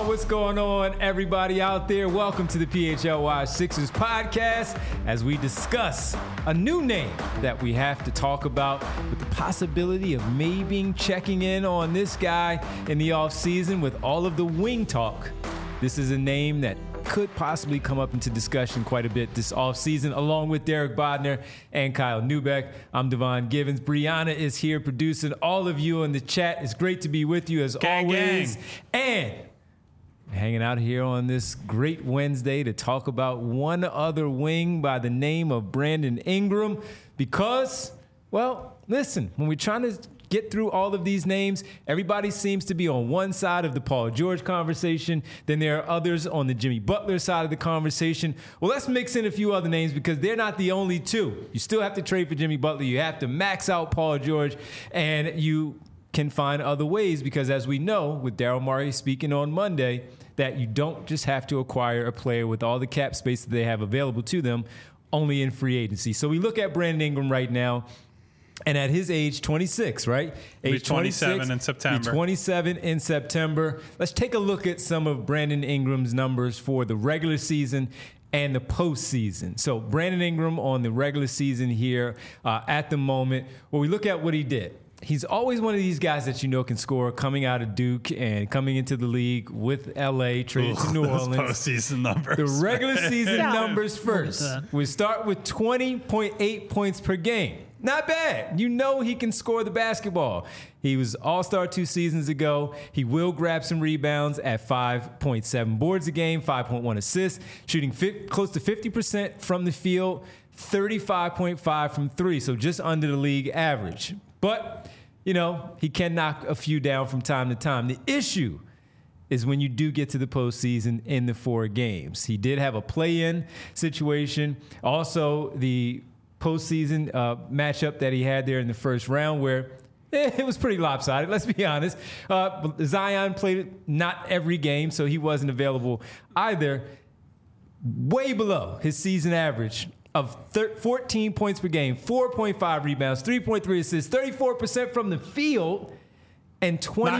What's going on, everybody out there? Welcome to the PHLY Sixers podcast as we discuss a new name that we have to talk about with the possibility of maybe checking in on this guy in the offseason with all of the wing talk. This is a name that could possibly come up into discussion quite a bit this offseason, along with Derek Bodner and Kyle Neubeck. I'm Devon Givens. Brianna is here producing all of you in the chat. It's great to be with you as always. And hanging out here on this great Wednesday to talk about one other wing by the name of Brandon Ingram because, well, listen, when we're trying to get through all of these names, everybody seems to be on one side of the Paul George conversation. Then there are others on the Jimmy Butler side of the conversation. Well, let's mix in a few other names because they're not the only two. You still have to trade for Jimmy Butler. You have to max out Paul George, and you can find other ways because, as we know, with Daryl Morey speaking on Monday, that you don't just have to acquire a player with all the cap space that they have available to them only in free agency. So we look at Brandon Ingram right now, and at his age, 26, right? Age 27 in September. 27 in September. Let's take a look at some of Brandon Ingram's numbers for the regular season and the postseason. So Brandon Ingram on the regular season here at the moment. Well, we look at what he did. He's always one of these guys that you know can score coming out of Duke and coming into the league with L.A., traded to New Orleans. Postseason numbers. The regular season numbers first. We start with 20.8 points per game. Not bad. You know he can score the basketball. He was all-star 2 seasons ago. He will grab some rebounds at 5.7 boards a game, 5.1 assists, shooting close to 50% from the field, 35.5 from three, so just under the league average. But, you know, he can knock a few down from time to time. The issue is when you do get to the postseason in the 4 games. He did have a play-in situation. Also, the postseason matchup that he had there in the first round where it was pretty lopsided, let's be honest. Zion played not every game, so he wasn't available either. Way below his season average of 14 points per game, 4.5 rebounds, 3.3 assists, 34% from the field, and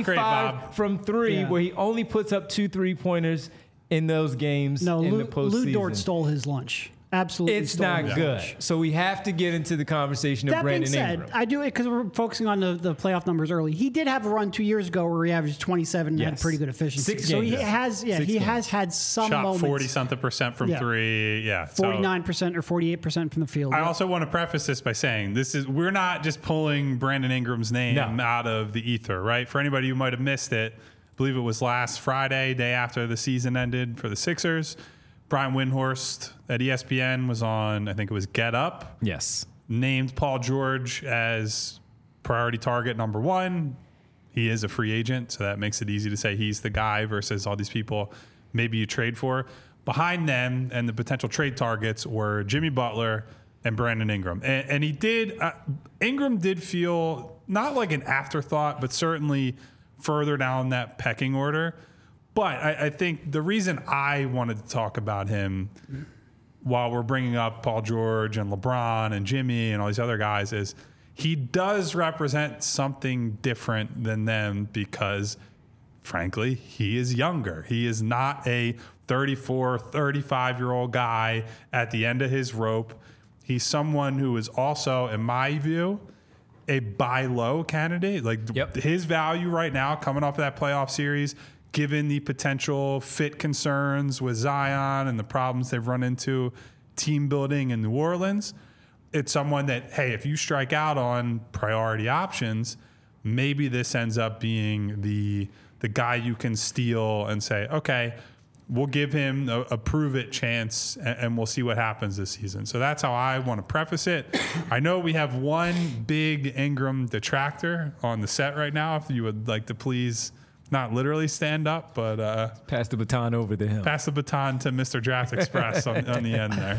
25 from three, where he only puts up 2 3-pointers in those games in the postseason. Lou Dort stole his lunch. Absolutely. It's not good. So we have to get into the conversation of Brandon Ingram. That being said, I do it because we're focusing on the playoff numbers early. He did have a run 2 years ago where he averaged 27 and had pretty good efficiency. 6 so games. he has had some moments. Shot 40-something% from three. Yeah. 49% or 48% from the field. I also want to preface this by saying we're not just pulling Brandon Ingram's name out of the ether, right? For anybody who might have missed it, I believe it was last Friday, day after the season ended for the Sixers. Brian Windhorst at ESPN was on, I think it was Get Up. Yes. Named Paul George as priority target number 1. He is a free agent, so that makes it easy to say he's the guy versus all these people maybe you trade for. Behind them and the potential trade targets were Jimmy Butler and Brandon Ingram. And he did, Ingram did feel not like an afterthought, but certainly further down that pecking order. But I think the reason I wanted to talk about him while we're bringing up Paul George and LeBron and Jimmy and all these other guys is he does represent something different than them because, frankly, he is younger. He is not a 34, 35-year-old guy at the end of his rope. He's someone who is also, in my view, a buy low candidate. Like his value right now coming off of that playoff series, given the potential fit concerns with Zion and the problems they've run into team building in New Orleans, it's someone that, hey, if you strike out on priority options, maybe this ends up being the guy you can steal and say, okay, we'll give him a prove-it chance and we'll see what happens this season. So that's how I want to preface it. I know we have one big Ingram detractor on the set right now. If you would like to please not literally stand up, but pass the baton over to him. Pass the baton to Mr. Draft Express on the end there.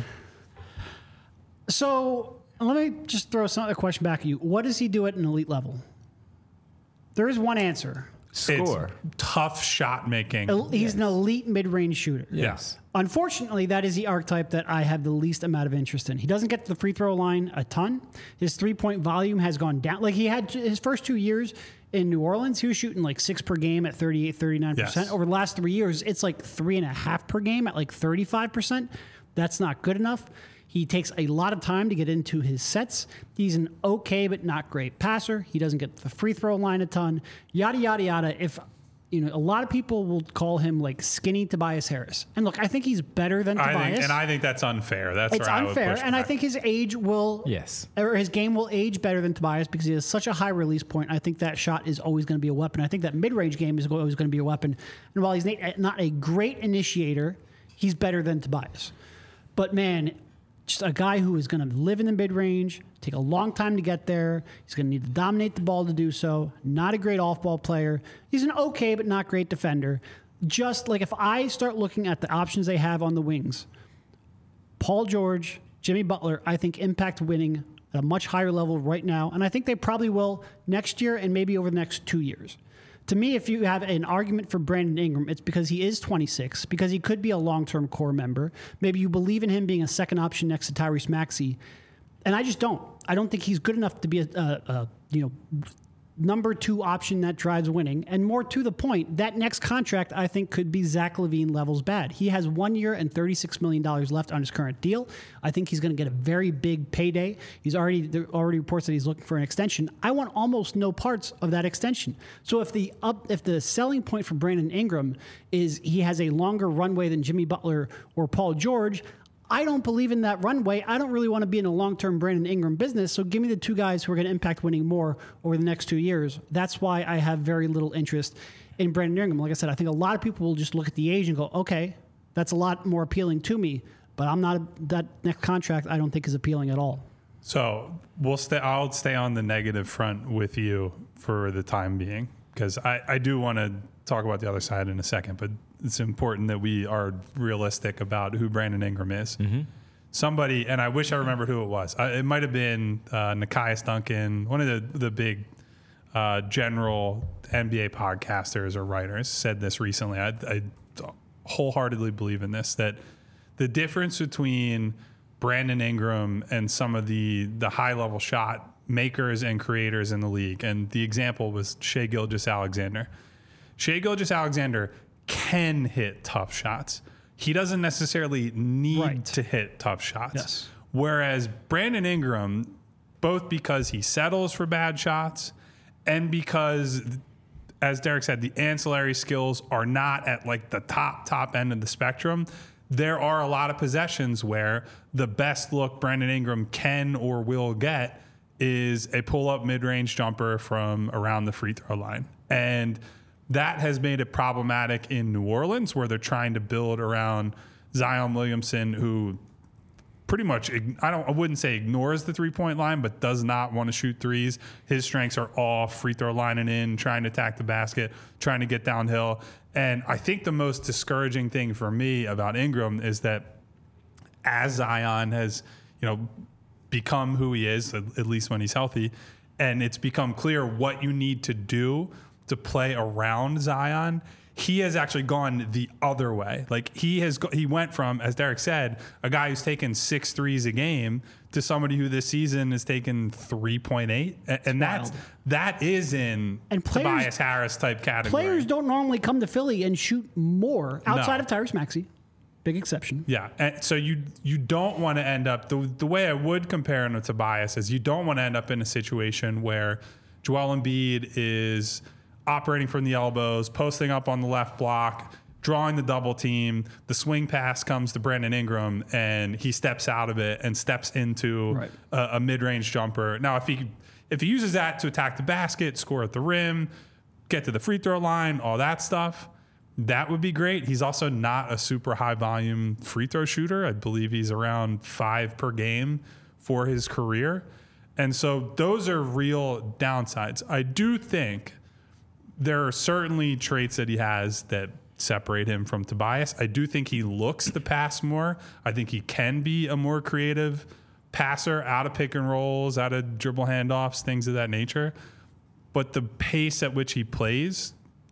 So let me just throw a question back at you. What does he do at an elite level? There is one answer. score. It's tough shot making. He's an elite mid-range shooter. Yes. Unfortunately, that is the archetype that I have the least amount of interest in. He doesn't get to the free throw line a ton. His three-point volume has gone down. Like, he had his first 2 years in New Orleans, he was shooting like 6 per game at 38, 39%. Yes. Over the last 3 years, it's like 3.5 per game at like 35%. That's not good enough. He takes a lot of time to get into his sets. He's an okay but not great passer. He doesn't get the free throw line a ton. Yada, yada, yada. If a lot of people will call him like skinny Tobias Harris. And look, I think he's better than Tobias. I think that's unfair. It's unfair. And I think his age will, or his game will age better than Tobias because he has such a high release point. I think that shot is always going to be a weapon. I think that mid-range game is always going to be a weapon. And while he's not a great initiator, he's better than Tobias. But man, just a guy who is going to live in the mid-range, take a long time to get there. He's going to need to dominate the ball to do so. Not a great off-ball player. He's an okay but not great defender. Just like if I start looking at the options they have on the wings, Paul George, Jimmy Butler, I think impact winning at a much higher level right now. And I think they probably will next year and maybe over the next 2 years. To me, if you have an argument for Brandon Ingram, it's because he is 26, because he could be a long-term core member. Maybe you believe in him being a second option next to Tyrese Maxey. And I just don't. I don't think he's good enough to be a number 2 option that drives winning. And more to the point, that next contract, I think, could be Zach LaVine levels bad. He has 1 year and $36 million left on his current deal. I think he's going to get a very big payday. There are already reports that he's looking for an extension. I want almost no parts of that extension. So if the selling point for Brandon Ingram is he has a longer runway than Jimmy Butler or Paul George, I don't believe in that runway. I don't really want to be in a long-term Brandon Ingram business. So give me the 2 guys who are going to impact winning more over the next 2 years. That's why I have very little interest in Brandon Ingram. Like I said, I think a lot of people will just look at the age and go, okay, that's a lot more appealing to me. But that next contract I don't think is appealing at all. So I'll stay on the negative front with you for the time being, because I do want to talk about the other side in a second, but it's important that we are realistic about who Brandon Ingram is. Mm-hmm. Somebody, and I wish I remembered who it was. It might have been Nekias Duncan, one of the big general NBA podcasters or writers, said this recently. I wholeheartedly believe in this, that the difference between Brandon Ingram and some of the high-level shot makers and creators in the league, and the example was Shai Gilgeous-Alexander. Shai Gilgeous-Alexander can hit tough shots. He doesn't necessarily need to hit tough shots. Yes. Whereas Brandon Ingram, both because he settles for bad shots and because, as Derek said, the ancillary skills are not at like the top end of the spectrum, there are a lot of possessions where the best look Brandon Ingram can or will get is a pull-up mid-range jumper from around the free throw line. And that has made it problematic in New Orleans, where they're trying to build around Zion Williamson, who pretty much, I wouldn't say ignores the three-point line, but does not want to shoot threes. His strengths are all free throw lining in, trying to attack the basket, trying to get downhill. And I think the most discouraging thing for me about Ingram is that as Zion has, become who he is, at least when he's healthy, and it's become clear what you need to do to play around Zion, he has actually gone the other way. Like he went from, as Derek said, a guy who's taken 6 threes a game to somebody who this season has taken 3.8, and that is in Tobias Harris type category. Players don't normally come to Philly and shoot more outside of Tyrese Maxey. Big exception. Yeah, and so you don't want to end up, the way I would compare him to Tobias is you don't want to end up in a situation where Joel Embiid is operating from the elbows, posting up on the left block, drawing the double team. The swing pass comes to Brandon Ingram, and he steps out of it and steps into a mid-range jumper. Now, if he uses that to attack the basket, score at the rim, get to the free throw line, all that stuff, that would be great. He's also not a super high-volume free throw shooter. I believe he's around 5 per game for his career. And so those are real downsides. I do think there are certainly traits that he has that separate him from Tobias. I do think he looks to pass more. I think he can be a more creative passer out of pick and rolls, out of dribble handoffs, things of that nature. But the pace at which he plays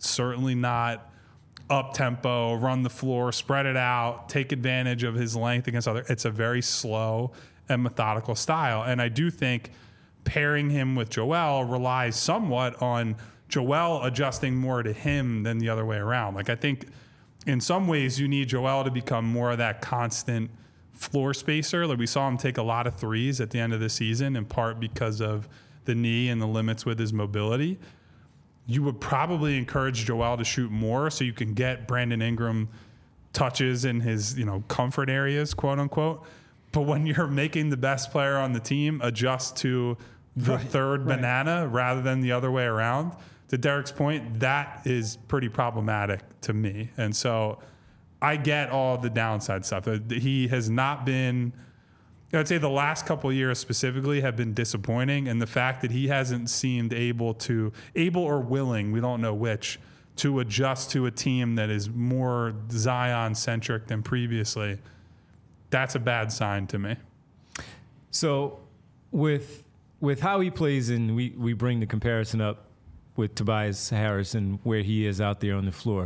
certainly not up-tempo, run the floor, spread it out, take advantage of his length against other. It's a very slow and methodical style. And I do think pairing him with Joel relies somewhat on Joel adjusting more to him than the other way around. Like, I think in some ways you need Joel to become more of that constant floor spacer. Like, we saw him take a lot of threes at the end of the season, in part because of the knee and the limits with his mobility. You would probably encourage Joel to shoot more so you can get Brandon Ingram touches in his, comfort areas, quote unquote. But when you're making the best player on the team adjust to the third banana rather than the other way around, to Derek's point, that is pretty problematic to me. And so I get all the downside stuff. He has not been, I'd say the last couple of years specifically have been disappointing. And the fact that he hasn't seemed able or willing, we don't know which, to adjust to a team that is more Zion-centric than previously, that's a bad sign to me. So with how he plays, and we bring the comparison up with Tobias Harris and where he is out there on the floor.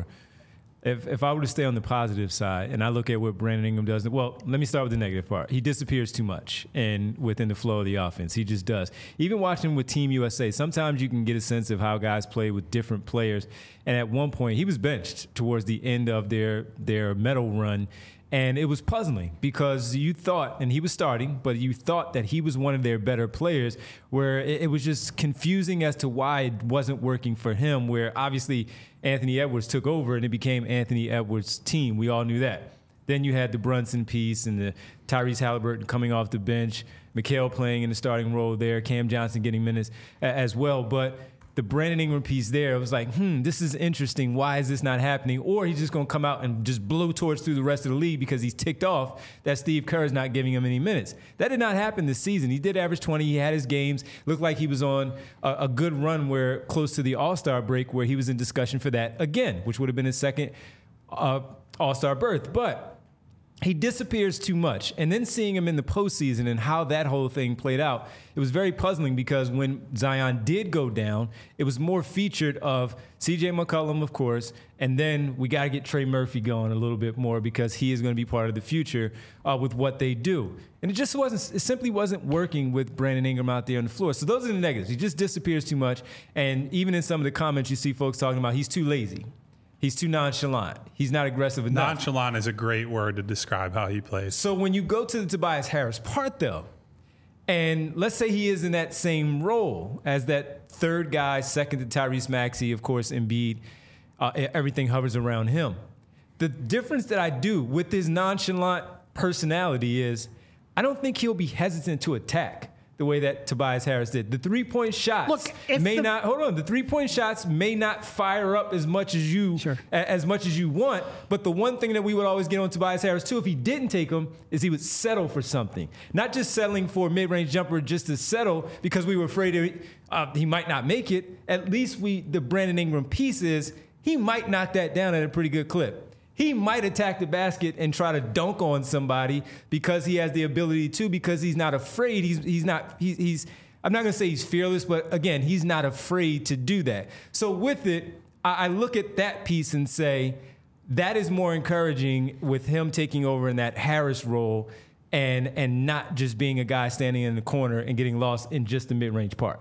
If I were to stay on the positive side and I look at what Brandon Ingram does, well, let me start with the negative part. He disappears too much within the flow of the offense. He just does. Even watching with Team USA, sometimes you can get a sense of how guys play with different players. And at one point, he was benched towards the end of their medal run. And it was puzzling because you thought, and he was starting, but you thought that he was one of their better players, where it was just confusing as to why it wasn't working for him, where obviously Anthony Edwards took over and it became Anthony Edwards' team. We all knew that. Then you had the Brunson piece and the Tyrese Halliburton coming off the bench, Mikal playing in the starting role there, Cam Johnson getting minutes as well. But the Brandon Ingram piece there, it was like, this is interesting. Why is this not happening? Or he's just going to come out and just blow torch through the rest of the league because he's ticked off that Steve Kerr is not giving him any minutes. That did not happen this season. He did average 20. He had his games. Looked like he was on a good run where close to the All-Star break where he was in discussion for that again, which would have been his second All-Star berth. But he disappears too much. And then seeing him in the postseason and how that whole thing played out, it was very puzzling because when Zion did go down, it was more featured of C.J. McCollum, of course, and then we got to get Trey Murphy going a little bit more because he is going to be part of the future with what they do. And it simply wasn't working with Brandon Ingram out there on the floor. So those are the negatives. He just disappears too much. And even in some of the comments you see folks talking about, he's too lazy. He's too nonchalant. He's not aggressive enough. Nonchalant is a great word to describe how he plays. So when you go to the Tobias Harris part, though, and let's say he is in that same role as that third guy, second to Tyrese Maxey, of course, Embiid, everything hovers around him. The difference that I do with his nonchalant personality is I don't think he'll be hesitant to attack the way that Tobias Harris did. The three-point shots the three-point shots may not fire up as much as you want, but the one thing that we would always get on Tobias Harris too, if he didn't take them, is he would settle for something. Not just settling for a mid-range jumper just to settle because we were afraid he might not make it. At least the Brandon Ingram piece is he might knock that down at a pretty good clip. He might attack the basket and try to dunk on somebody because he has the ability to, because he's not afraid. I'm not going to say he's fearless, but again, he's not afraid to do that. So with it, I look at that piece and say that is more encouraging with him taking over in that Harris role and not just being a guy standing in the corner and getting lost in just the mid-range part.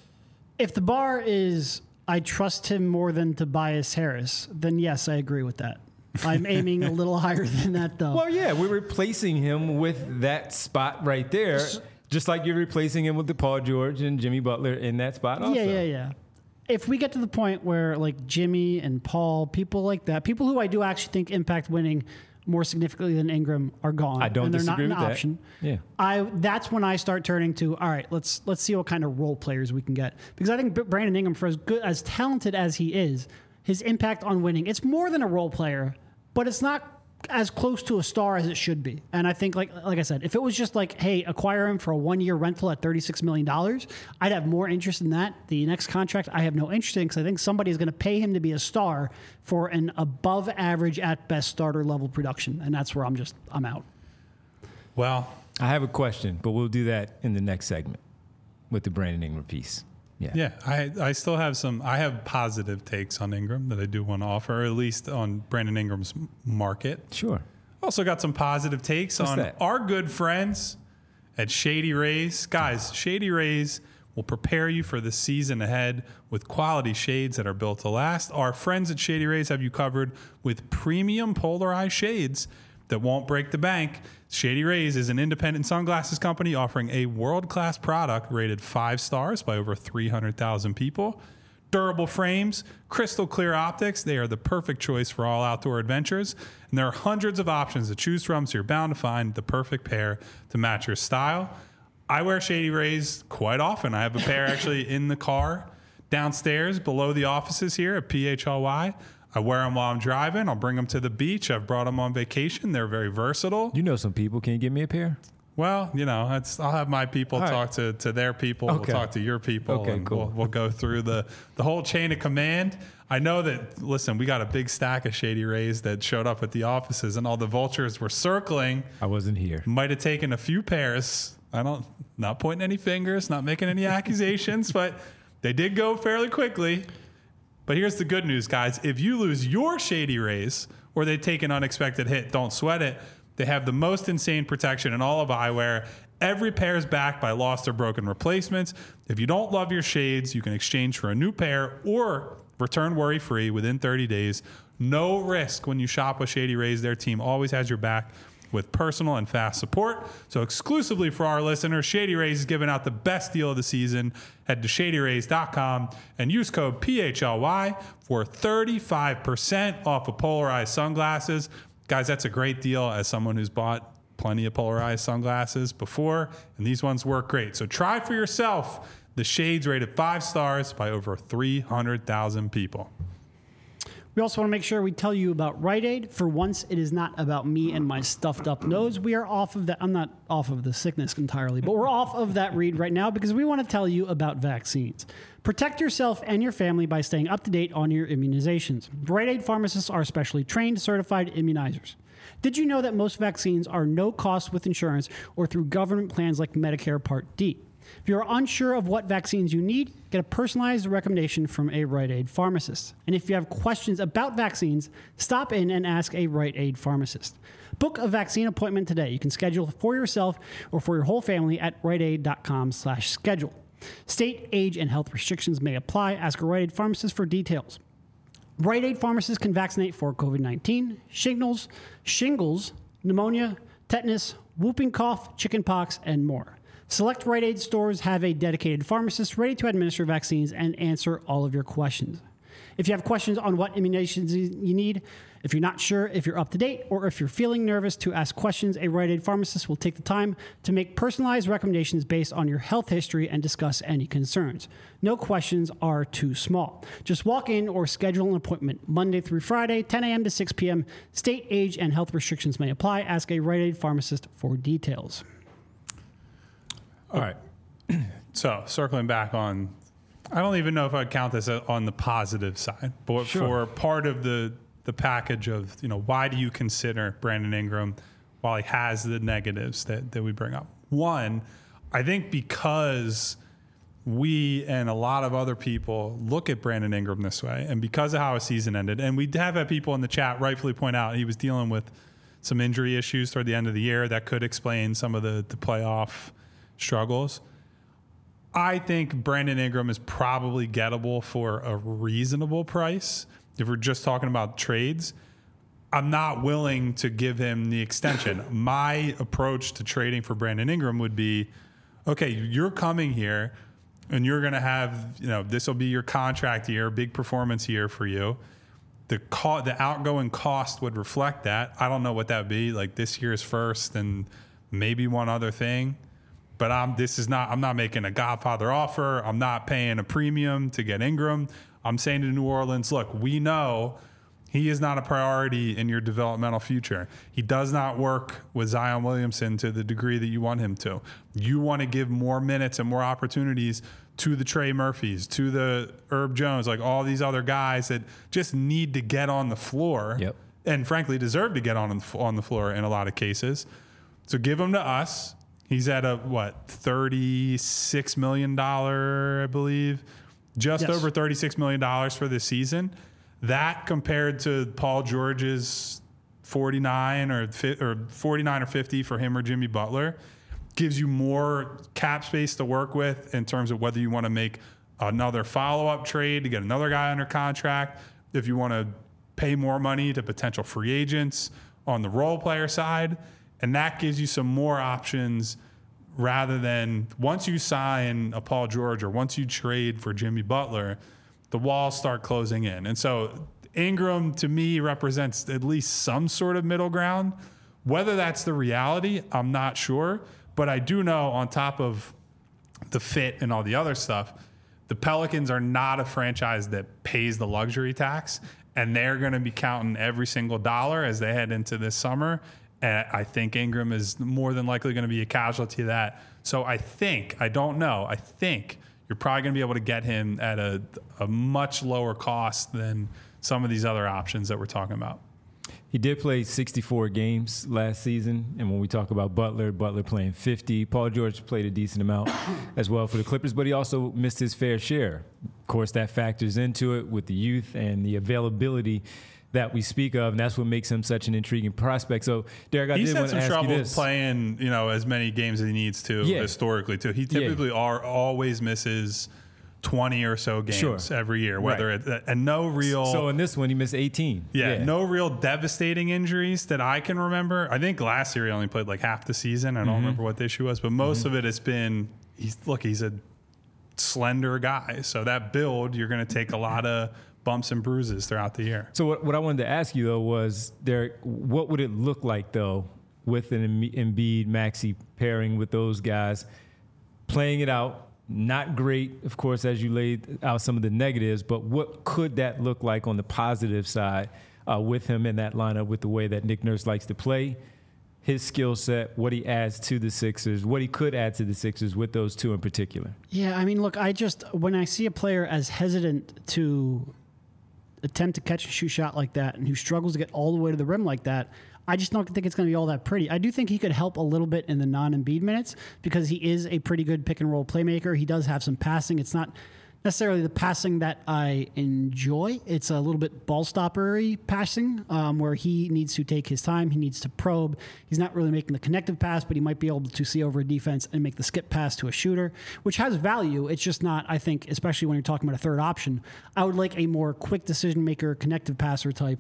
If the bar is I trust him more than Tobias Harris, then yes, I agree with that. I'm aiming a little higher than that, though. Well, yeah, we're replacing him with that spot right there, just like you're replacing him with the Paul George and Jimmy Butler in that spot also. Yeah. If we get to the point where, like, Jimmy and Paul, people like that, people who I do actually think impact winning more significantly than Ingram are gone. I don't disagree with that. They're not an option. Yeah. That's when I start turning to, all right, let's see what kind of role players we can get. Because I think Brandon Ingram, for as talented as he is, his impact on winning, it's more than a role player, but it's not as close to a star as it should be. And I think, like I said, if it was just like, hey, acquire him for a 1-year rental at $36 million, I'd have more interest in that. The next contract, I have no interest in because I think somebody is going to pay him to be a star for an above average at best starter level production. And that's where I'm out. Well, I have a question, but we'll do that in the next segment with the Brandon Ingram piece. Yeah. I still have I have positive takes on Ingram that I do want to offer, or at least on Brandon Ingram's market. Sure. Also got some positive takes on our good friends at Shady Rays. Guys, Shady Rays will prepare you for the season ahead with quality shades that are built to last. Our friends at Shady Rays have you covered with premium polarized shades that won't break the bank. Shady Rays is an independent sunglasses company offering a world-class product rated 5 stars by over 300,000 people. Durable frames, crystal clear optics, they are the perfect choice for all outdoor adventures. And there are hundreds of options to choose from, so you're bound to find the perfect pair to match your style. I wear Shady Rays quite often. I have a pair actually in the car downstairs below the offices here at PHLY. I wear them while I'm driving. I'll bring them to the beach. I've brought them on vacation. They're very versatile. You know some people. Can you give me a pair? Well, I'll have my people talk to their people. Okay. We'll talk to your people. Okay, and cool. We'll go through the whole chain of command. I know that, listen, we got a big stack of Shady Rays that showed up at the offices, and all the vultures were circling. I wasn't here. Might have taken a few pairs. Not pointing any fingers, not making any accusations, but they did go fairly quickly. But here's the good news, guys. If you lose your Shady Rays or they take an unexpected hit, don't sweat it. They have the most insane protection in all of eyewear. Every pair is backed by lost or broken replacements. If you don't love your shades, you can exchange for a new pair or return worry-free within 30 days. No risk when you shop with Shady Rays. Their team always has your back with personal and fast support. So exclusively for our listeners, Shady Rays is giving out the best deal of the season. Head to shadyrays.com and use code PHLY for 35% off of polarized sunglasses. Guys, that's a great deal as someone who's bought plenty of polarized sunglasses before, and these ones work great. So try for yourself the shades rated 5 stars by over 300,000 people. We also want to make sure we tell you about Rite Aid. For once, it is not about me and my stuffed up nose. We are off of that. I'm not off of the sickness entirely, but we're off of that read right now because we want to tell you about vaccines. Protect yourself and your family by staying up to date on your immunizations. Rite Aid pharmacists are specially trained, certified immunizers. Did you know that most vaccines are no cost with insurance or through government plans like Medicare Part D? If you're unsure of what vaccines you need, get a personalized recommendation from a Rite Aid pharmacist. And if you have questions about vaccines, stop in and ask a Rite Aid pharmacist. Book a vaccine appointment today. You can schedule for yourself or for your whole family at riteaid.com/schedule. State, age, and health restrictions may apply. Ask a Rite Aid pharmacist for details. Rite Aid pharmacists can vaccinate for COVID-19, shingles, pneumonia, tetanus, whooping cough, chickenpox, and more. Select Rite Aid stores have a dedicated pharmacist ready to administer vaccines and answer all of your questions. If you have questions on what immunizations you need, if you're not sure if you're up to date, or if you're feeling nervous to ask questions, a Rite Aid pharmacist will take the time to make personalized recommendations based on your health history and discuss any concerns. No questions are too small. Just walk in or schedule an appointment Monday through Friday, 10 a.m. to 6 p.m. State, age, and health restrictions may apply. Ask a Rite Aid pharmacist for details. All right. So circling back on, I don't even know if I'd count this on the positive side, but for part of the package of, why do you consider Brandon Ingram while he has the negatives that we bring up? One, I think because we and a lot of other people look at Brandon Ingram this way, and because of how his season ended, and we have had people in the chat rightfully point out he was dealing with some injury issues toward the end of the year that could explain some of the playoff struggles. I think Brandon Ingram is probably gettable for a reasonable price. If we're just talking about trades, I'm not willing to give him the extension. My approach to trading for Brandon Ingram would be, okay, you're coming here and you're going to have, this will be your contract year, big performance year for you. The outgoing cost would reflect that. I don't know what that would be, like this year's first and maybe one other thing. But I'm not making a Godfather offer. I'm not paying a premium to get Ingram. I'm saying to New Orleans, look, we know he is not a priority in your developmental future. He does not work with Zion Williamson to the degree that you want him to. You want to give more minutes and more opportunities to the Trey Murphys, to the Herb Jones, like all these other guys that just need to get on the floor and frankly deserve to get on the floor in a lot of cases. So give them to us. He's at a, $36 million, I believe. Just over $36 million for this season. That compared to Paul George's 49 or 50 for him or Jimmy Butler gives you more cap space to work with in terms of whether you want to make another follow-up trade to get another guy under contract, if you want to pay more money to potential free agents on the role player side. And that gives you some more options rather than once you sign a Paul George or once you trade for Jimmy Butler, the walls start closing in. And so Ingram, to me, represents at least some sort of middle ground. Whether that's the reality, I'm not sure. But I do know, on top of the fit and all the other stuff, the Pelicans are not a franchise that pays the luxury tax, and they're going to be counting every single dollar as they head into this summer. And I think Ingram is more than likely going to be a casualty of that. So I think you're probably going to be able to get him at a much lower cost than some of these other options that we're talking about. He did play 64 games last season, and when we talk about Butler playing 50. Paul George played a decent amount as well for the Clippers, but he also missed his fair share. Of course, that factors into it with the youth and the availability that we speak of, and that's what makes him such an intriguing prospect. So, Derek, I did want to ask you this. He's had some trouble playing, as many games as he needs to historically, too. He typically always misses 20 or so games every year, and no real. So in this one, he missed 18. No real devastating injuries that I can remember. I think last year he only played like half the season. I don't remember what the issue was, but most of it has been he's a slender guy. So that build, you're going to take a lot of bumps and bruises throughout the year. So what I wanted to ask you though was, Derek, what would it look like though with an Embiid Maxey pairing with those guys playing it out? Not great, of course, as you laid out some of the negatives, but what could that look like on the positive side with him in that lineup, with the way that Nick Nurse likes to play, his skill set, what he adds to the Sixers, what he could add to the Sixers with those two in particular? Yeah, I mean, look, when I see a player as hesitant to attempt to catch a shoot shot like that and who struggles to get all the way to the rim like that, I just don't think it's going to be all that pretty. I do think he could help a little bit in the non-Embiid minutes because he is a pretty good pick-and-roll playmaker. He does have some passing. It's not necessarily the passing that I enjoy. It's a little bit ball-stoppery passing where he needs to take his time. He needs to probe. He's not really making the connective pass, but he might be able to see over a defense and make the skip pass to a shooter, which has value. It's just not, I think, especially when you're talking about a third option, I would like a more quick decision-maker, connective passer type.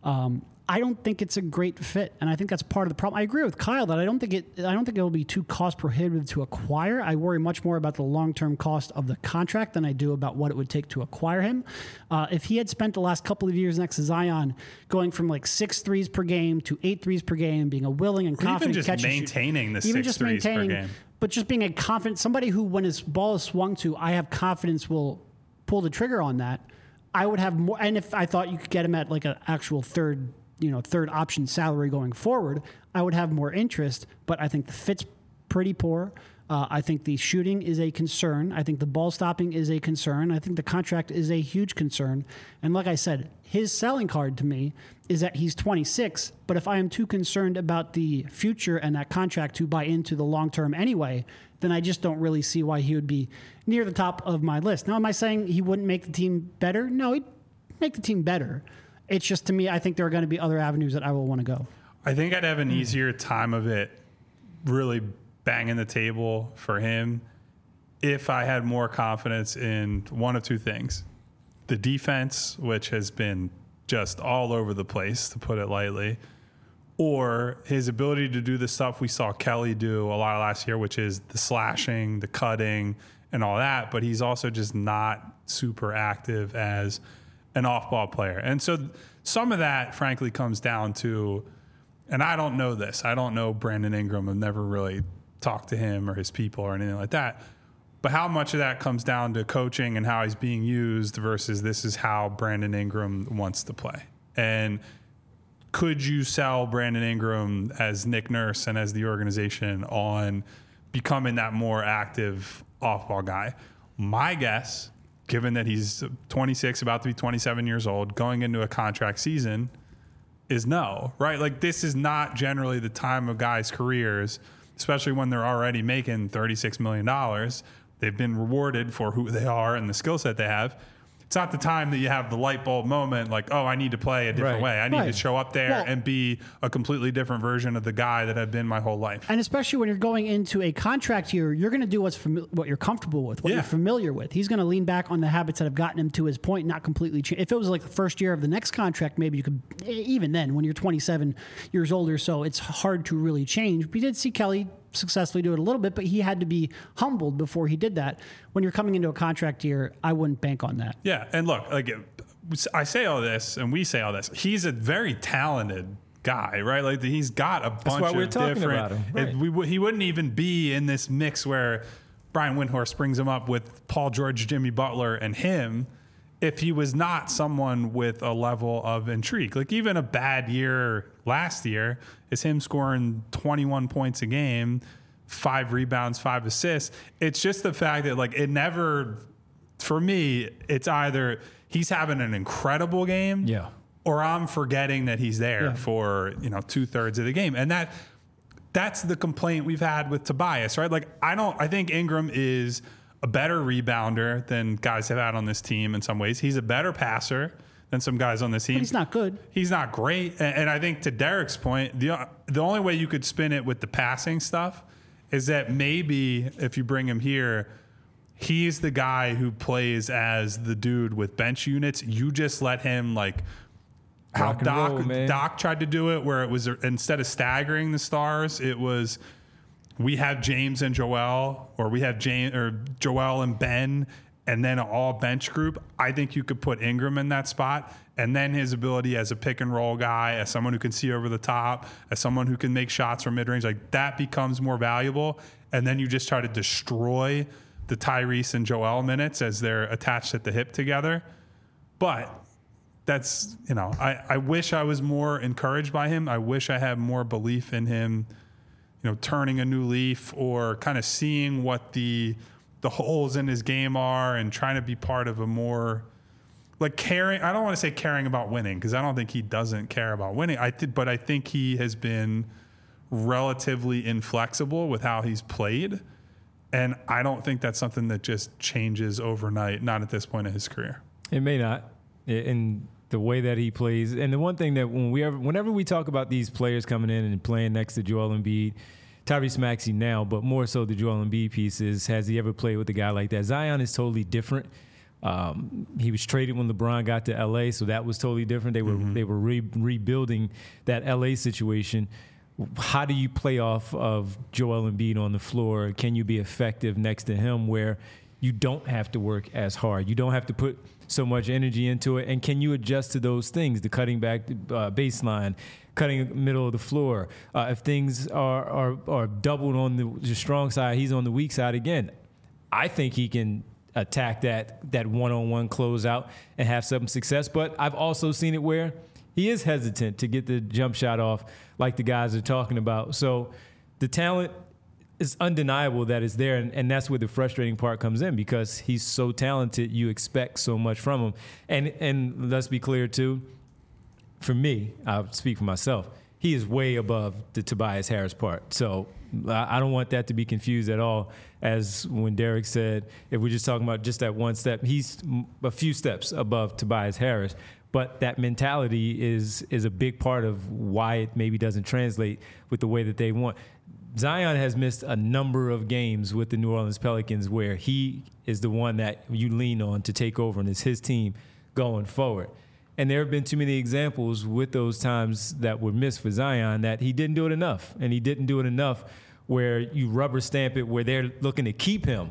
I don't think it's a great fit, and I think that's part of the problem. I agree with Kyle that I don't think it'll be too cost prohibitive to acquire. I worry much more about the long-term cost of the contract than I do about what it would take to acquire him. If he had spent the last couple of years next to Zion going from like 6 threes per game to 8 threes per game, being a willing and confident catcher, even just maintaining the 6 threes per game, but just being a confident somebody who, when his ball is swung to, I have confidence will pull the trigger on that. I would have more, and if I thought you could get him at like an actual third option salary going forward, I would have more interest, but I think the fit's pretty poor. I think the shooting is a concern. I think the ball stopping is a concern. I think the contract is a huge concern. And like I said, his selling card to me is that he's 26, but if I am too concerned about the future and that contract to buy into the long term anyway, then I just don't really see why he would be near the top of my list. Now, am I saying he wouldn't make the team better? No, he'd make the team better. It's just, to me, I think there are going to be other avenues that I will want to go. I think I'd have an easier time of it really banging the table for him if I had more confidence in one of two things. The defense, which has been just all over the place, to put it lightly, or his ability to do the stuff we saw Kelly do a lot last year, which is the slashing, the cutting, and all that. But he's also just not super active as an off-ball player. And so some of that, frankly, comes down to, and I don't know this. I don't know Brandon Ingram. I've never really talked to him or his people or anything like that. But how much of that comes down to coaching and how he's being used versus this is how Brandon Ingram wants to play? And could you sell Brandon Ingram as Nick Nurse and as the organization on becoming that more active off-ball guy? My guess, given that he's 26, about to be 27 years old, going into a contract season, is no, right? Like, this is not generally the time of guys' careers especially when they're already making $36 million. They've been rewarded for who they are and the skill set they have. It's not the time that you have the light bulb moment like, oh, I need to play a different way. I need to show up there and be a completely different version of the guy that I've been my whole life. And especially when you're going into a contract year, you're going to do what you're comfortable with, what you're familiar with. He's going to lean back on the habits that have gotten him to his point, not completely change. If it was like the first year of the next contract, maybe you could, even then, when you're 27 years old or so, it's hard to really change. We did see Kelly successfully do it a little bit, but he had to be humbled before he did that. When you're coming into a contract year, I wouldn't bank on that. Yeah, and look, like I say all this, and we say all this. He's a very talented guy, right? Like he's got a bunch of different. Right. He wouldn't even be in this mix where Brian Windhorst brings him up with Paul George, Jimmy Butler, and him. If he was not someone with a level of intrigue, like even a bad year last year is him scoring 21 points a game, 5 rebounds, 5 assists. It's just the fact that like it never, for me, it's either he's having an incredible game, or I'm forgetting that he's there for 2/3 of the game, and that's the complaint we've had with Tobias, right? Like I think Ingram is a better rebounder than guys have had on this team in some ways. He's a better passer than some guys on this team. But he's not good. He's not great. And I think to Derek's point, the only way you could spin it with the passing stuff is that maybe if you bring him here, he's the guy who plays as the dude with bench units. You just let him like how Doc tried to do it, where it was instead of staggering the stars, it was we have James and Joel, or we have Joel and Ben, and then an all bench group. I think you could put Ingram in that spot, and then his ability as a pick and roll guy, as someone who can see over the top, as someone who can make shots from mid range, like that becomes more valuable. And then you just try to destroy the Tyrese and Joel minutes as they're attached at the hip together. But that's I wish I was more encouraged by him. I wish I had more belief in him. Turning a new leaf or kind of seeing what the holes in his game are and trying to be part of a more like caring. I don't want to say caring about winning because I don't think he doesn't care about winning. But I think he has been relatively inflexible with how he's played. And I don't think that's something that just changes overnight, not at this point of his career. It may not. In the way that he plays. And the one thing that whenever we talk about these players coming in and playing next to Joel Embiid, Tyrese Maxey now, but more so the Joel Embiid piece is, has he ever played with a guy like that? Zion is totally different. He was traded when LeBron got to LA, so that was totally different. They were rebuilding that LA situation. How do you play off of Joel Embiid on the floor? Can you be effective next to him where you don't have to work as hard? You don't have to put so much energy into it. And can you adjust to those things, the cutting back baseline, cutting middle of the floor? If things are doubled on the strong side, he's on the weak side again. I think he can attack that one-on-one closeout and have some success. But I've also seen it where he is hesitant to get the jump shot off like the guys are talking about. So the talent is undeniable that it's there, and that's where the frustrating part comes in because he's so talented, you expect so much from him. And let's be clear, too, for me, I'll speak for myself, he is way above the Tobias Harris part. So I don't want that to be confused at all, as when Derek said, if we're just talking about just that one step, he's a few steps above Tobias Harris. But that mentality is a big part of why it maybe doesn't translate with the way that they want. Zion has missed a number of games with the New Orleans Pelicans where he is the one that you lean on to take over, and it's his team going forward. And there have been too many examples with those times that were missed for Zion that he didn't do it enough. And he didn't do it enough where you rubber stamp it, where they're looking to keep him.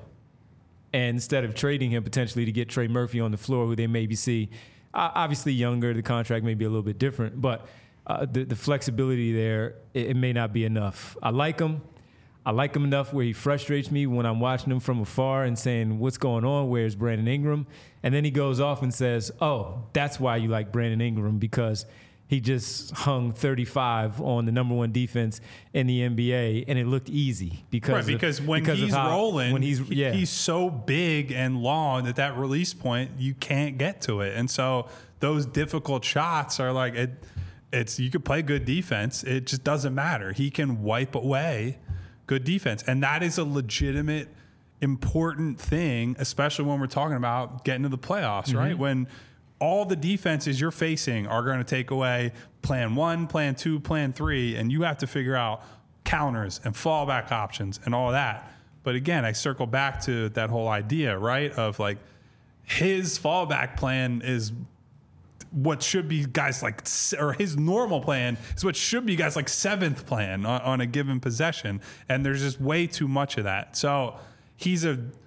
And instead of trading him potentially to get Trey Murphy on the floor, who they maybe see obviously younger, the contract may be a little bit different, but the flexibility there, it may not be enough. I like him. I like him enough where he frustrates me when I'm watching him from afar and saying, what's going on? Where's Brandon Ingram? And then he goes off and says, oh, that's why you like Brandon Ingram, because he just hung 35 on the number one defense in the NBA, and it looked easy because when he's rolling, he's so big and long that release point, you can't get to it. And so those difficult shots are like you could play good defense. It just doesn't matter. He can wipe away good defense. And that is a legitimate, important thing, especially when we're talking about getting to the playoffs, right? When all the defenses you're facing are going to take away plan 1, plan 2, plan 3, and you have to figure out counters and fallback options and all that. But again, I circle back to that whole idea, right, of like his fallback plan is what should be guys like, or his normal plan is what should be guys like 7th plan on a given possession. And there's just way too much of that. So he's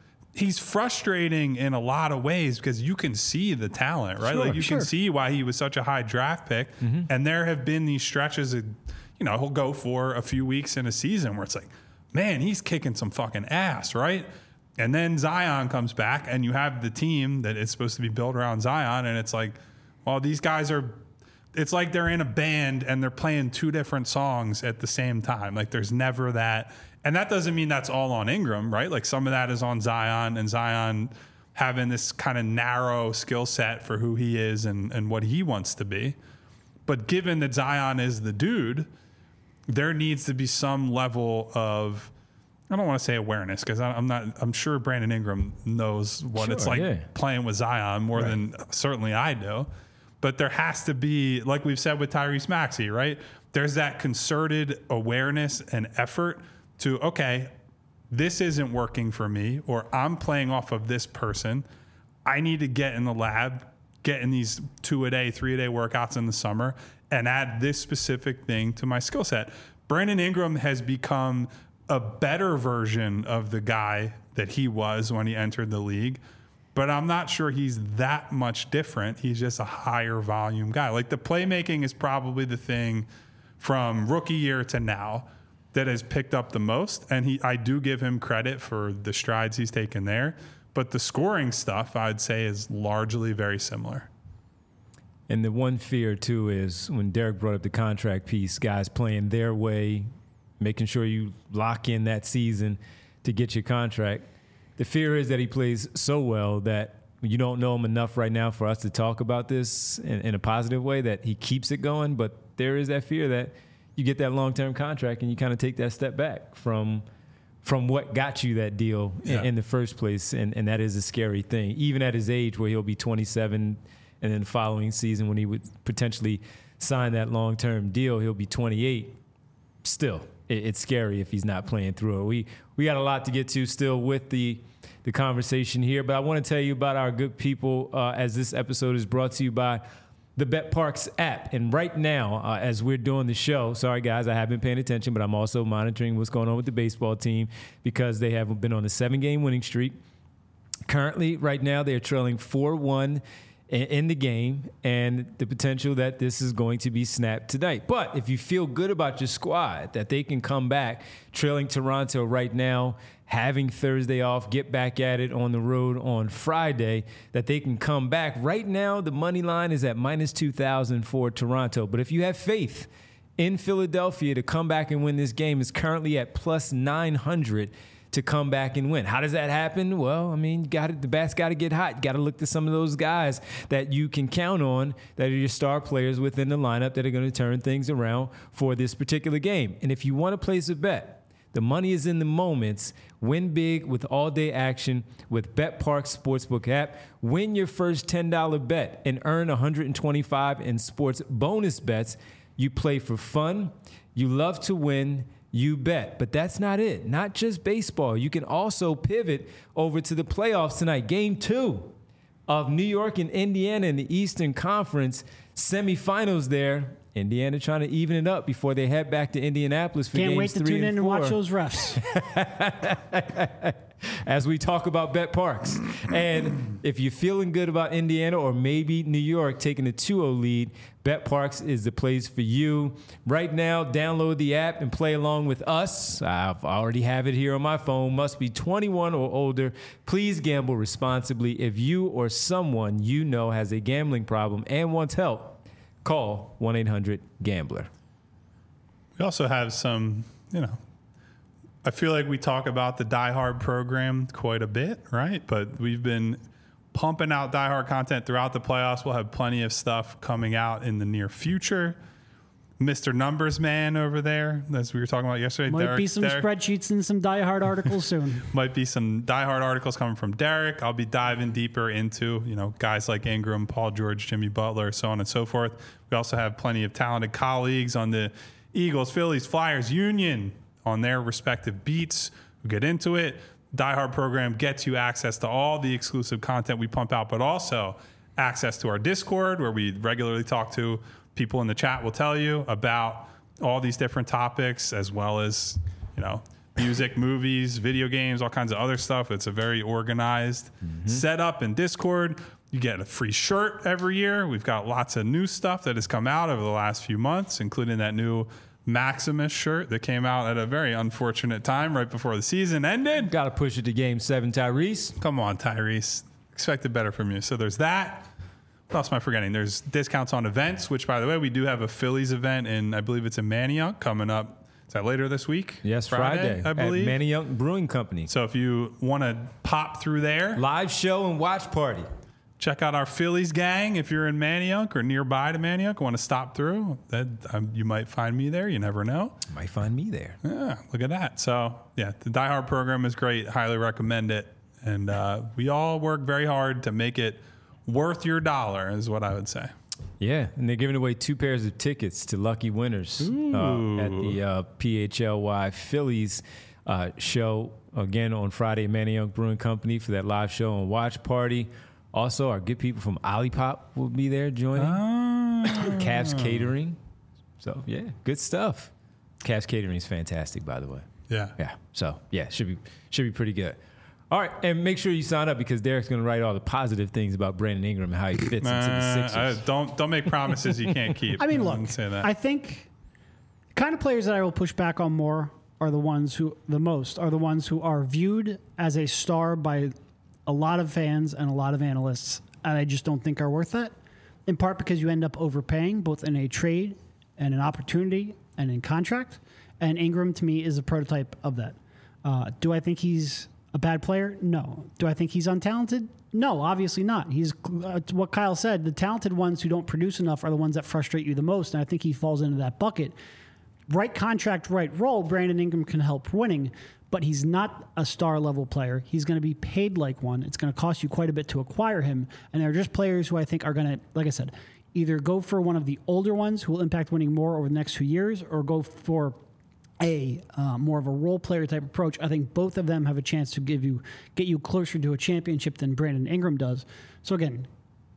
frustrating in a lot of ways because you can see the talent, right? Like you can see why he was such a high draft pick. And there have been these stretches of, he'll go for a few weeks in a season where it's like, man, he's kicking some fucking ass, right? And then Zion comes back and you have the team that is supposed to be built around Zion. And it's like, well, these guys it's like they're in a band and they're playing 2 different songs at the same time. Like there's never that. And that doesn't mean that's all on Ingram, right? Like some of that is on Zion, and Zion having this kind of narrow skill set for who he is and what he wants to be. But given that Zion is the dude, there needs to be some level of, I don't want to say awareness because I'm sure Brandon Ingram knows what it's like playing with Zion more than certainly I do. But there has to be, like we've said with Tyrese Maxey, right? There's that concerted awareness and effort to, okay, this isn't working for me, or I'm playing off of this person. I need to get in the lab, get in these 2-a-day, 3-a-day workouts in the summer, and add this specific thing to my skill set. Brandon Ingram has become a better version of the guy that he was when he entered the league, but I'm not sure he's that much different. He's just a higher volume guy. Like the playmaking is probably the thing from rookie year to now that has picked up the most. And I do give him credit for the strides he's taken there. But the scoring stuff, I'd say, is largely very similar. And the one fear, too, is when Derek brought up the contract piece, guys playing their way, making sure you lock in that season to get your contract. The fear is that he plays so well that you don't know him enough right now for us to talk about this in a positive way, that he keeps it going. But there is that fear that you get that long-term contract and you kind of take that step back from what got you that deal in the first place. And that is a scary thing, even at his age where he'll be 27 and then the following season when he would potentially sign that long-term deal, he'll be 28. Still, it's scary if he's not playing through it. We got a lot to get to still with the conversation here, but I want to tell you about our good people as this episode is brought to you by the BetParx app. And right now, as we're doing the show, sorry guys, I have been paying attention, but I'm also monitoring what's going on with the baseball team because they have been on a 7-game winning streak. Currently, right now, they're trailing 4-1 in the game, and the potential that this is going to be snapped tonight. But if you feel good about your squad, that they can come back trailing Toronto right now, having Thursday off, get back at it on the road on Friday, that they can come back. Right now, the money line is at -2,000 for Toronto. But if you have faith in Philadelphia to come back and win this game, it's currently at +900 to come back and win. How does that happen? Well, I mean, the bat's got to get hot. Got to look to some of those guys that you can count on that are your star players within the lineup that are going to turn things around for this particular game. And if you want to place a bet, the money is in the moments. Win big with all-day action with BetParx Sportsbook app. Win your first $10 bet and earn $125 in sports bonus bets. You play for fun. You love to win. You bet. But that's not it. Not just baseball. You can also pivot over to the playoffs tonight. Game 2 of New York and Indiana in the Eastern Conference semifinals there. Indiana trying to even it up before they head back to Indianapolis for Can't games wait to 3 tune in and and 4. watch those refs. As we talk about BetParx. And if you're feeling good about Indiana or maybe New York taking a 2-0 lead, BetParx is the place for you. Right now, download the app and play along with us. I already have it here on my phone. Must be 21 or older. Please gamble responsibly. If you or someone you know has a gambling problem and wants help, call 1-800-GAMBLER. We also have some, I feel like we talk about the Die Hard program quite a bit, right? But we've been pumping out Die Hard content throughout the playoffs. We'll have plenty of stuff coming out in the near future. Mr. Numbers Man over there, as we were talking about yesterday. Might be some spreadsheets and some diehard articles soon. Might be some diehard articles coming from Derek. I'll be diving deeper into, guys like Ingram, Paul George, Jimmy Butler, so on and so forth. We also have plenty of talented colleagues on the Eagles, Phillies, Flyers, Union on their respective beats. We'll get into it. Diehard program gets you access to all the exclusive content we pump out, but also access to our Discord, where we regularly talk to people in the chat. Will tell you about all these different topics, as well as, music, movies, video games, all kinds of other stuff. It's a very organized setup in Discord. You get a free shirt every year. We've got lots of new stuff that has come out over the last few months, including that new Maximus shirt that came out at a very unfortunate time right before the season ended. Got to push it to Game 7, Tyrese. Come on, Tyrese. Expected better from you. So there's that. What else am I forgetting? There's discounts on events, which, by the way, we do have a Phillies event in, I believe it's in Manayunk coming up. Is that later this week? Yes, Friday I believe. At Manayunk Brewing Company. So if you want to pop through there. Live show and watch party. Check out our Phillies gang if you're in Manayunk or nearby to Manayunk. Want to stop through? You might find me there. You never know. Might find me there. Yeah, look at that. So, yeah, the Die Hard program is great. Highly recommend it. And we all work very hard to make it worth your dollar, is what I would say. Yeah, and they're giving away 2 pairs of tickets to lucky winners at the PHLY Phillies show, again, on Friday at Manayunk Brewing Company for that live show and watch party. Also, our good people from Olipop will be there joining. Cavs Catering. So, yeah, good stuff. Cavs Catering is fantastic, by the way. Yeah. Yeah. So, yeah, should be pretty good. All right, and make sure you sign up because Derek's going to write all the positive things about Brandon Ingram and how he fits into the Sixers. Don't make promises you can't keep. I mean, look, I think the kind of players that I will push back on more are the ones who are viewed as a star by a lot of fans and a lot of analysts, and I just don't think are worth that, in part because you end up overpaying both in a trade and an opportunity and in contract, and Ingram, to me, is a prototype of that. Do I think he's a bad player? No. Do I think he's untalented? No, obviously not. He's what Kyle said. The talented ones who don't produce enough are the ones that frustrate you the most, and I think he falls into that bucket. Right contract, right role, Brandon Ingram can help winning, but he's not a star-level player. He's going to be paid like one. It's going to cost you quite a bit to acquire him, and they're just players who I think are going to, like I said, either go for one of the older ones who will impact winning more over the next few years, or go for a more of a role player type approach. I think both of them have a chance to get you closer to a championship than Brandon Ingram does. So again,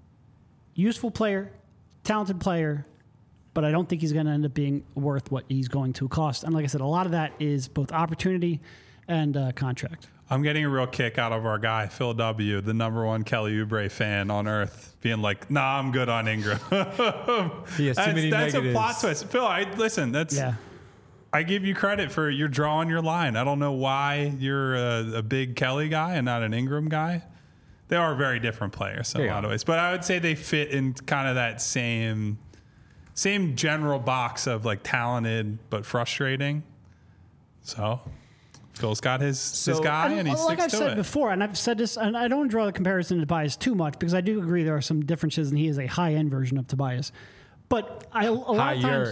useful player, talented player, but I don't think he's going to end up being worth what he's going to cost. And like I said, a lot of that is both opportunity and contract. I'm getting a real kick out of our guy, Phil W., the #1 Kelly Oubre fan on earth, being like, nah, I'm good on Ingram. He has too many negatives. That's a plot twist. Phil, listen, yeah. I give you credit for you're drawing your line. I don't know why you're a big Kelly guy and not an Ingram guy. They are very different players in a lot of ways. But I would say they fit in kind of that same general box of like talented but frustrating. So Phil's got his guy and he sticks to it. Like I've said before, and I've said this, and I don't draw the comparison to Tobias too much because I do agree there are some differences and he is a high-end version of Tobias. But higher.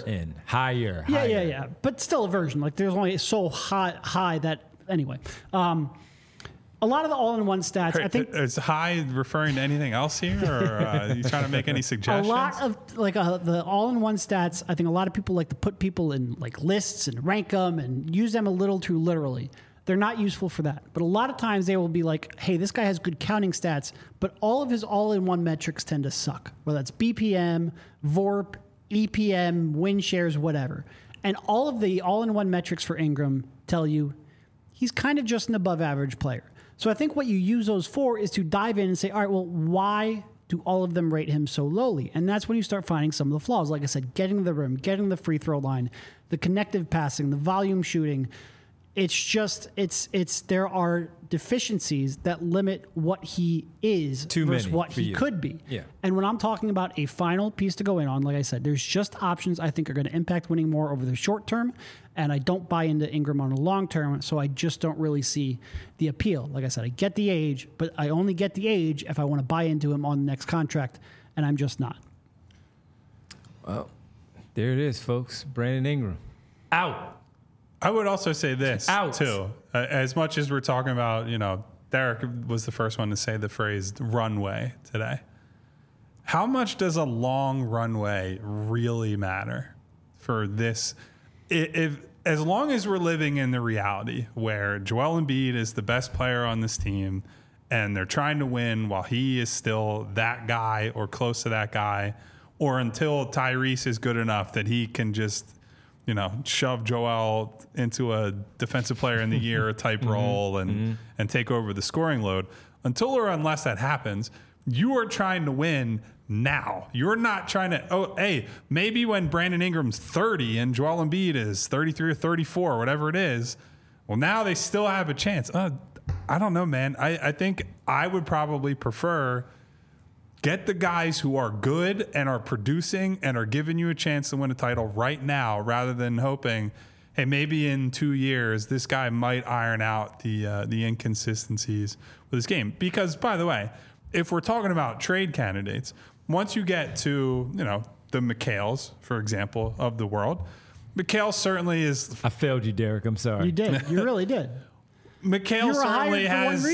Yeah. But still a version. Like there's only so high that anyway. A lot of the all-in-one stats. I think is high referring to anything else here, or are you trying to make any suggestions? A lot of the all-in-one stats. I think a lot of people like to put people in like lists and rank them and use them a little too literally. They're not useful for that. But a lot of times they will be like, hey, this guy has good counting stats, but all of his all-in-one metrics tend to suck, whether that's BPM, VORP, EPM, win shares, whatever. And all of the all-in-one metrics for Ingram tell you he's kind of just an above-average player. So I think what you use those for is to dive in and say, all right, well, why do all of them rate him so lowly? And that's when you start finding some of the flaws. Like I said, getting to the rim, getting the free throw line, the connective passing, the volume shooting. It's just, there are deficiencies that limit what he is versus what he could be. Yeah. And when I'm talking about a final piece to go in on, like I said, there's just options I think are going to impact winning more over the short term. And I don't buy into Ingram on the long term, so I just don't really see the appeal. Like I said, I get the age, but I only get the age if I want to buy into him on the next contract, and I'm just not. Well, There it is, folks. Brandon Ingram out. I would also say this out too. As much as we're talking about, Derek was the first one to say the phrase runway today. How much does a long runway really matter for this? If as long as we're living in the reality where Joel Embiid is the best player on this team and they're trying to win while he is still that guy or close to that guy, or until Tyrese is good enough that he can just, shove Joel into a defensive player in the year type role and take over the scoring load. Until or unless that happens, you are trying to win now. You're not trying to, maybe when Brandon Ingram's 30 and Joel Embiid is 33 or 34, whatever it is, well, now they still have a chance. I don't know, man. I think I would probably prefer get the guys who are good and are producing and are giving you a chance to win a title right now rather than hoping, hey, maybe in 2 years this guy might iron out the inconsistencies with his game. Because, by the way, if we're talking about trade candidates, once you get to, the McHales, for example, of the world, McHale certainly is... I failed you, Derek. I'm sorry. You did. You really did. McHale certainly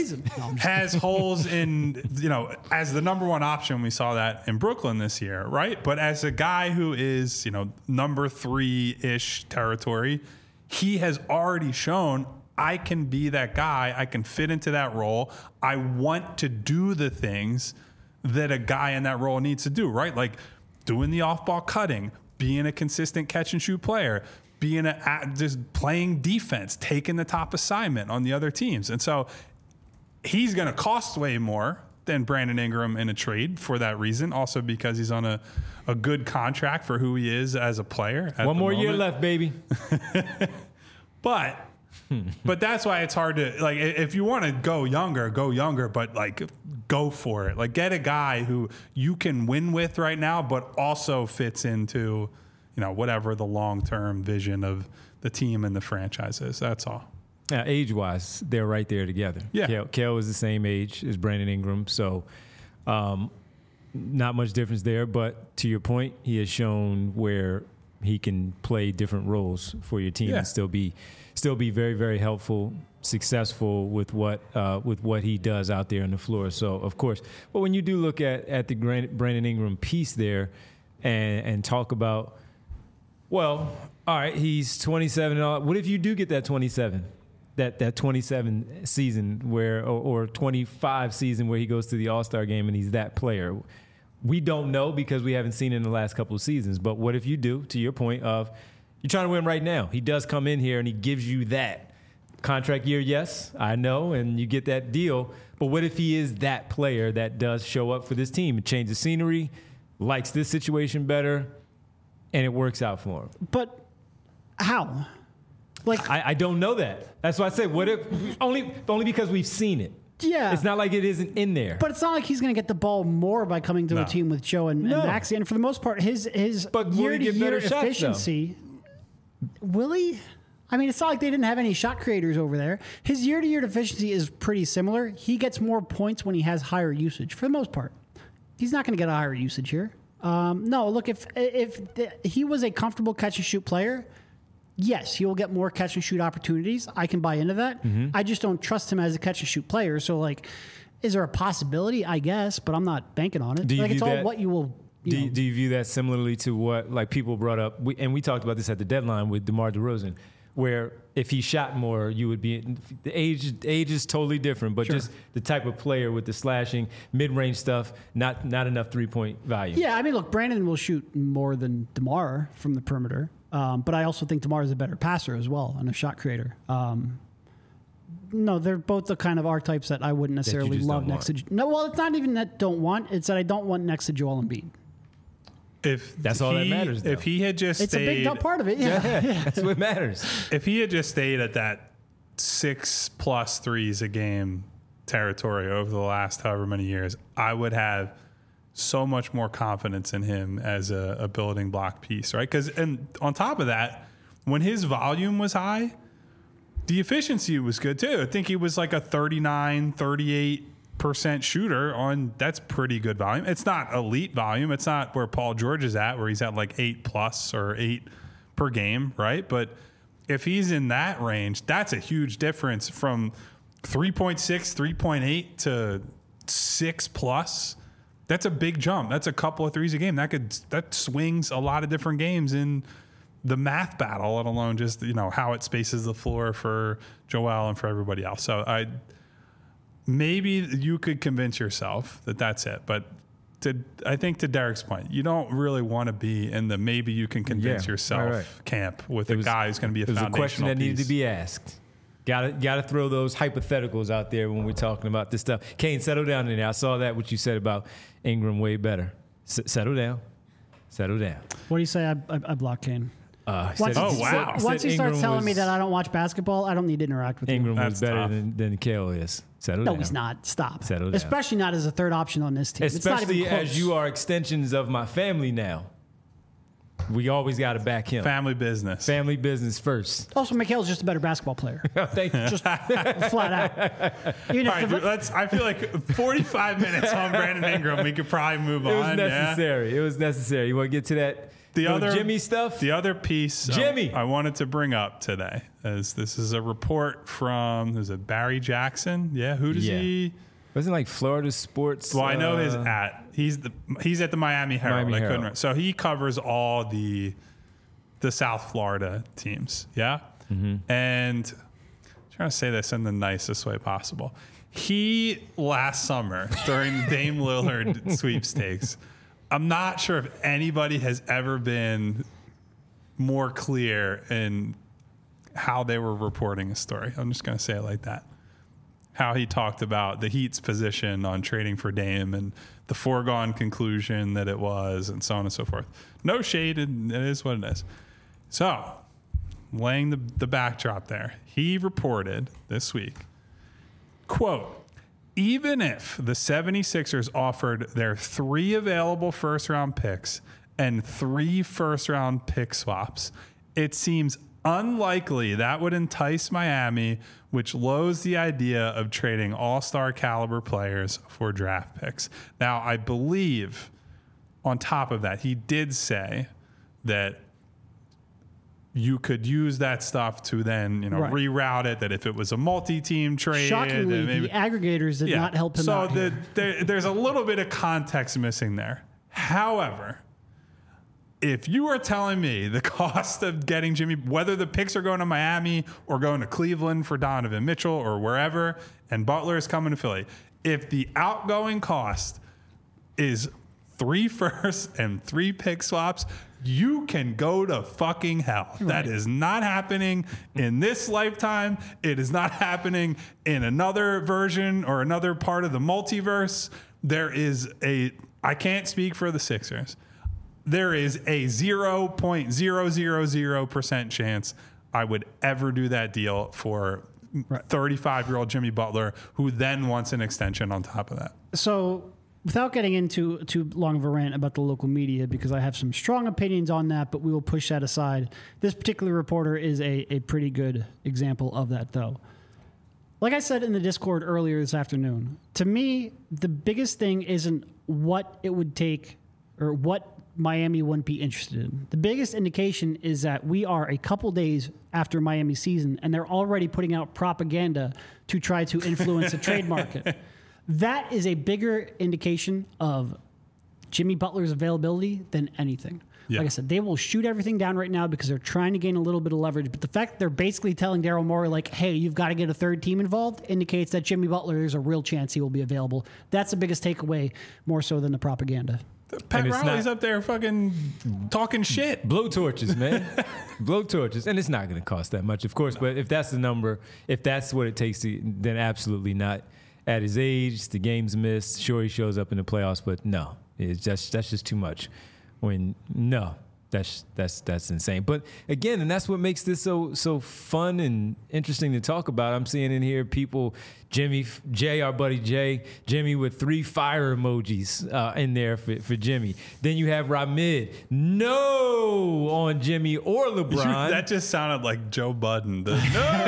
has holes in, as the number one option. We saw that in Brooklyn this year, right? But as a guy who is, number 3-ish territory, he has already shown I can be that guy. I can fit into that role. I want to do the things that a guy in that role needs to do, right? Like doing the off-ball cutting, being a consistent catch-and-shoot player, just playing defense, taking the top assignment on the other teams. And so he's going to cost way more than Brandon Ingram in a trade for that reason. Also because he's on a good contract for who he is as a player. One more year left, baby. But that's why it's hard to, like, if you want to go younger, but like go for it. Like get a guy who you can win with right now, but also fits into, whatever the long-term vision of the team and the franchise is. That's all. Now, age-wise, they're right there together. Yeah. Kale is the same age as Brandon Ingram, so not much difference there. But to your point, he has shown where he can play different roles for your team and still be very, very helpful, successful with what he does out there on the floor. So, of course, but when you do look at the Brandon Ingram piece there and talk about, well, all right, he's 27 and all. What if you do get that 27? That 27 season or 25 season where he goes to the All-Star game and he's that player. We don't know because we haven't seen it in the last couple of seasons. But what if you do, to your point of you're trying to win right now? He does come in here and he gives you that contract year, yes, I know, and you get that deal. But what if he is that player that does show up for this team and change the scenery, likes this situation better, and it works out for him? But how? Like I don't know that. That's why I say, what if only because we've seen it. Yeah. It's not like it isn't in there. But it's not like he's going to get the ball more by coming to a team with Joe and Maxey. And for the most part, his year-to-year efficiency, will he? I mean, it's not like they didn't have any shot creators over there. His year-to-year efficiency is pretty similar. He gets more points when he has higher usage, for the most part. He's not going to get a higher usage here. No, look, if he was a comfortable catch-and-shoot player, yes, he will get more catch-and-shoot opportunities. I can buy into that. Mm-hmm. I just don't trust him as a catch-and-shoot player. So, like, is there a possibility? I guess, but I'm not banking on it. It's all what you will... Do you view that similarly to what, like, people brought up, and we talked about this at the deadline with DeMar DeRozan, where if he shot more, you would be... The age is totally different, but just the type of player with the slashing, mid-range stuff, not enough three-point value. Yeah, I mean, look, Brandon will shoot more than DeMar from the perimeter, but I also think DeMar is a better passer as well and a shot creator. No, they're both the kind of archetypes that I wouldn't necessarily love next to... No, well, it's not even that don't want. It's that I don't want next to Joel Embiid. That's all that matters, though. If he had just stayed... It's a big part of it, yeah. That's what matters. If he had just stayed at that 6+ threes a game territory over the last however many years, I would have so much more confidence in him as a building block piece, right? And on top of that, when his volume was high, the efficiency was good too. I think he was like a 39, 38% 40% shooter on, that's pretty good volume. It's not elite volume. It's not where Paul George is at, where he's at like 8+ or 8 per game, right? But if he's in that range, that's a huge difference from 3.6, 3.8 to 6+. That's a big jump. That's a couple of threes a game. That swings a lot of different games in the math battle, let alone just, how it spaces the floor for Joel and for everybody else. So maybe you could convince yourself that that's it. But I think to Derek's point, you don't really want to be in the maybe you can convince yourself camp with a guy who's going to be a foundational piece. It was a question that needed to be asked. Got to throw those hypotheticals out there when we're talking about this stuff. Kane, settle down in there. I saw that what you said about Ingram way better. Settle down. Settle down. What do you say? I block Kane. Once he starts telling me that I don't watch basketball, I don't need to interact with him. Ingram was better than Kale is. Settle down. No, he's not. Stop. Settle down. Especially not as a third option on this team. Especially as you are extensions of my family now. We always got to back him. Family business. Family business first. Also, Mikhail's just a better basketball player. Thank you. Just flat out. I feel like 45 minutes on Brandon Ingram, we could probably move on. It was necessary. Yeah? It was necessary. You want to get to that Jimmy stuff? The other piece Jimmy. I wanted to bring up today is this is a report from, Barry Jackson? Yeah, who does he... Wasn't like Florida sports? Well, I know his at. He's at the Miami Herald. So he covers all the South Florida teams. Yeah. Mm-hmm. And I'm trying to say this in the nicest way possible. He last summer during the Dame Lillard sweepstakes, I'm not sure if anybody has ever been more clear in how they were reporting a story. I'm just going to say it like that. How he talked about the Heat's position on trading for Dame and the foregone conclusion that it was, and so on and so forth. No shade, and it is what it is. So, laying the backdrop there, he reported this week, quote, even if the 76ers offered their 3 available first-round picks and 3 first-round pick swaps, it seems unlikely that would entice Miami, which loathes the idea of trading all-star caliber players for draft picks. Now, I believe on top of that, he did say that you could use that stuff to then, reroute it, that if it was a multi-team trade. Shockingly, the aggregators did not help him out. So there's a little bit of context missing there. However, if you are telling me the cost of getting Jimmy, whether the picks are going to Miami or going to Cleveland for Donovan Mitchell or wherever, and Butler is coming to Philly, if the outgoing cost is 3 firsts and 3 pick swaps, you can go to fucking hell. Right. That is not happening in this lifetime. It is not happening in another version or another part of the multiverse. I can't speak for the Sixers. There is a 0.000% chance I would ever do that deal for 35-year-old Jimmy Butler, who then wants an extension on top of that. So without getting into too long of a rant about the local media, because I have some strong opinions on that, but we will push that aside. This particular reporter is a pretty good example of that, though. Like I said in the Discord earlier this afternoon, to me, the biggest thing isn't what it would take or what Miami wouldn't be interested in. The biggest indication is that we are a couple days after Miami season, and they're already putting out propaganda to try to influence the trade market. That is a bigger indication of Jimmy Butler's availability than anything. Yeah. Like I said, they will shoot everything down right now because they're trying to gain a little bit of leverage. But the fact that they're basically telling Daryl Morey, like, hey, you've got to get a third team involved, indicates that Jimmy Butler, there's a real chance he will be available. That's the biggest takeaway, more so than the propaganda. Pat Riley's up there fucking talking shit. Blow torches, man. Blow torches. And it's not going to cost that much, of course. No. But if that's the number, if that's what it takes, then absolutely not. At his age, the game's missed. Sure, he shows up in the playoffs, but no. That's just too much. That's insane. But again, and that's what makes this so fun and interesting to talk about. I'm seeing in here people, our buddy Jimmy with 3 fire emojis in there for Jimmy. Then you have Ramid, no on Jimmy or LeBron. That just sounded like Joe Budden. No.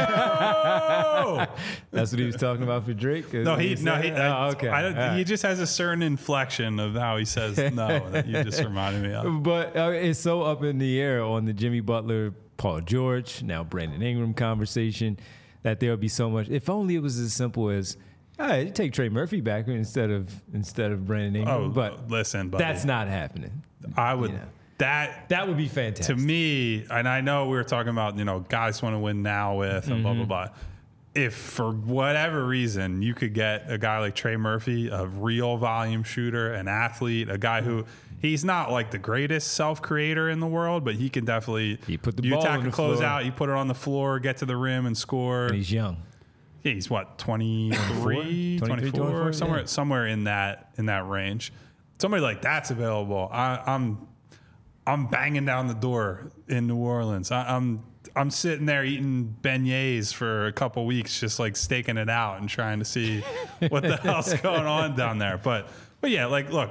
That's what he was talking about for Drake. He just has a certain inflection of how he says no that you just reminded me of. But it's so up in the air on the Jimmy Butler, Paul George, now Brandon Ingram conversation that there'll be so much. If only it was as simple as, all right, you take Trey Murphy back instead of Brandon Ingram. Oh, but listen, buddy, that's not happening. I would that would be fantastic to me. And I know we were talking about guys want to win now with and blah blah blah. If for whatever reason you could get a guy like Trey Murphy, a real volume shooter, an athlete, a guy who he's not like the greatest self-creator in the world, but he can definitely put the ball attack on the close floor. out, you put it on the floor, get to the rim and score. And he's young. Yeah, he's what, 23, 24, somewhere in that range. Somebody like that's available. I'm banging down the door in New Orleans. I'm sitting there eating beignets for a couple weeks, just like staking it out and trying to see what the hell's going on down there. But yeah, like, look,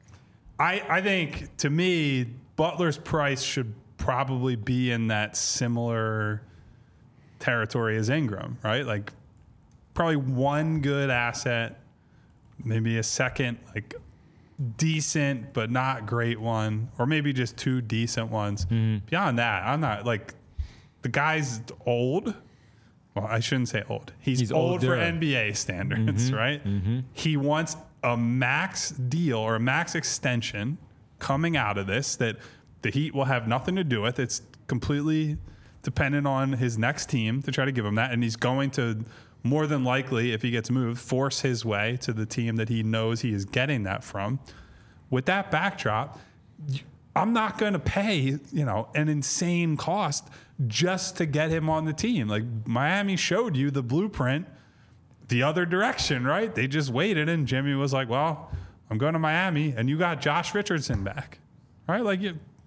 I think to me, Butler's price should probably be in that similar territory as Ingram, right? Like probably one good asset, maybe a second, like decent but not great one, or maybe just 2 decent ones. Beyond that, I'm not like. The guy's old. Well, I shouldn't say old. He's old for NBA standards, right? He wants a max deal or a max extension coming out of this that the Heat will have nothing to do with. It's completely dependent on his next team to try to give him that. And he's going to, more than likely, if he gets moved, force his way to the team that he knows he is getting that from. With that backdrop, I'm not going to pay, an insane cost just to get him on the team. Like Miami showed you the blueprint the other direction, right? They just waited and Jimmy was like, well, I'm going to Miami and you got Josh Richardson back, right? Like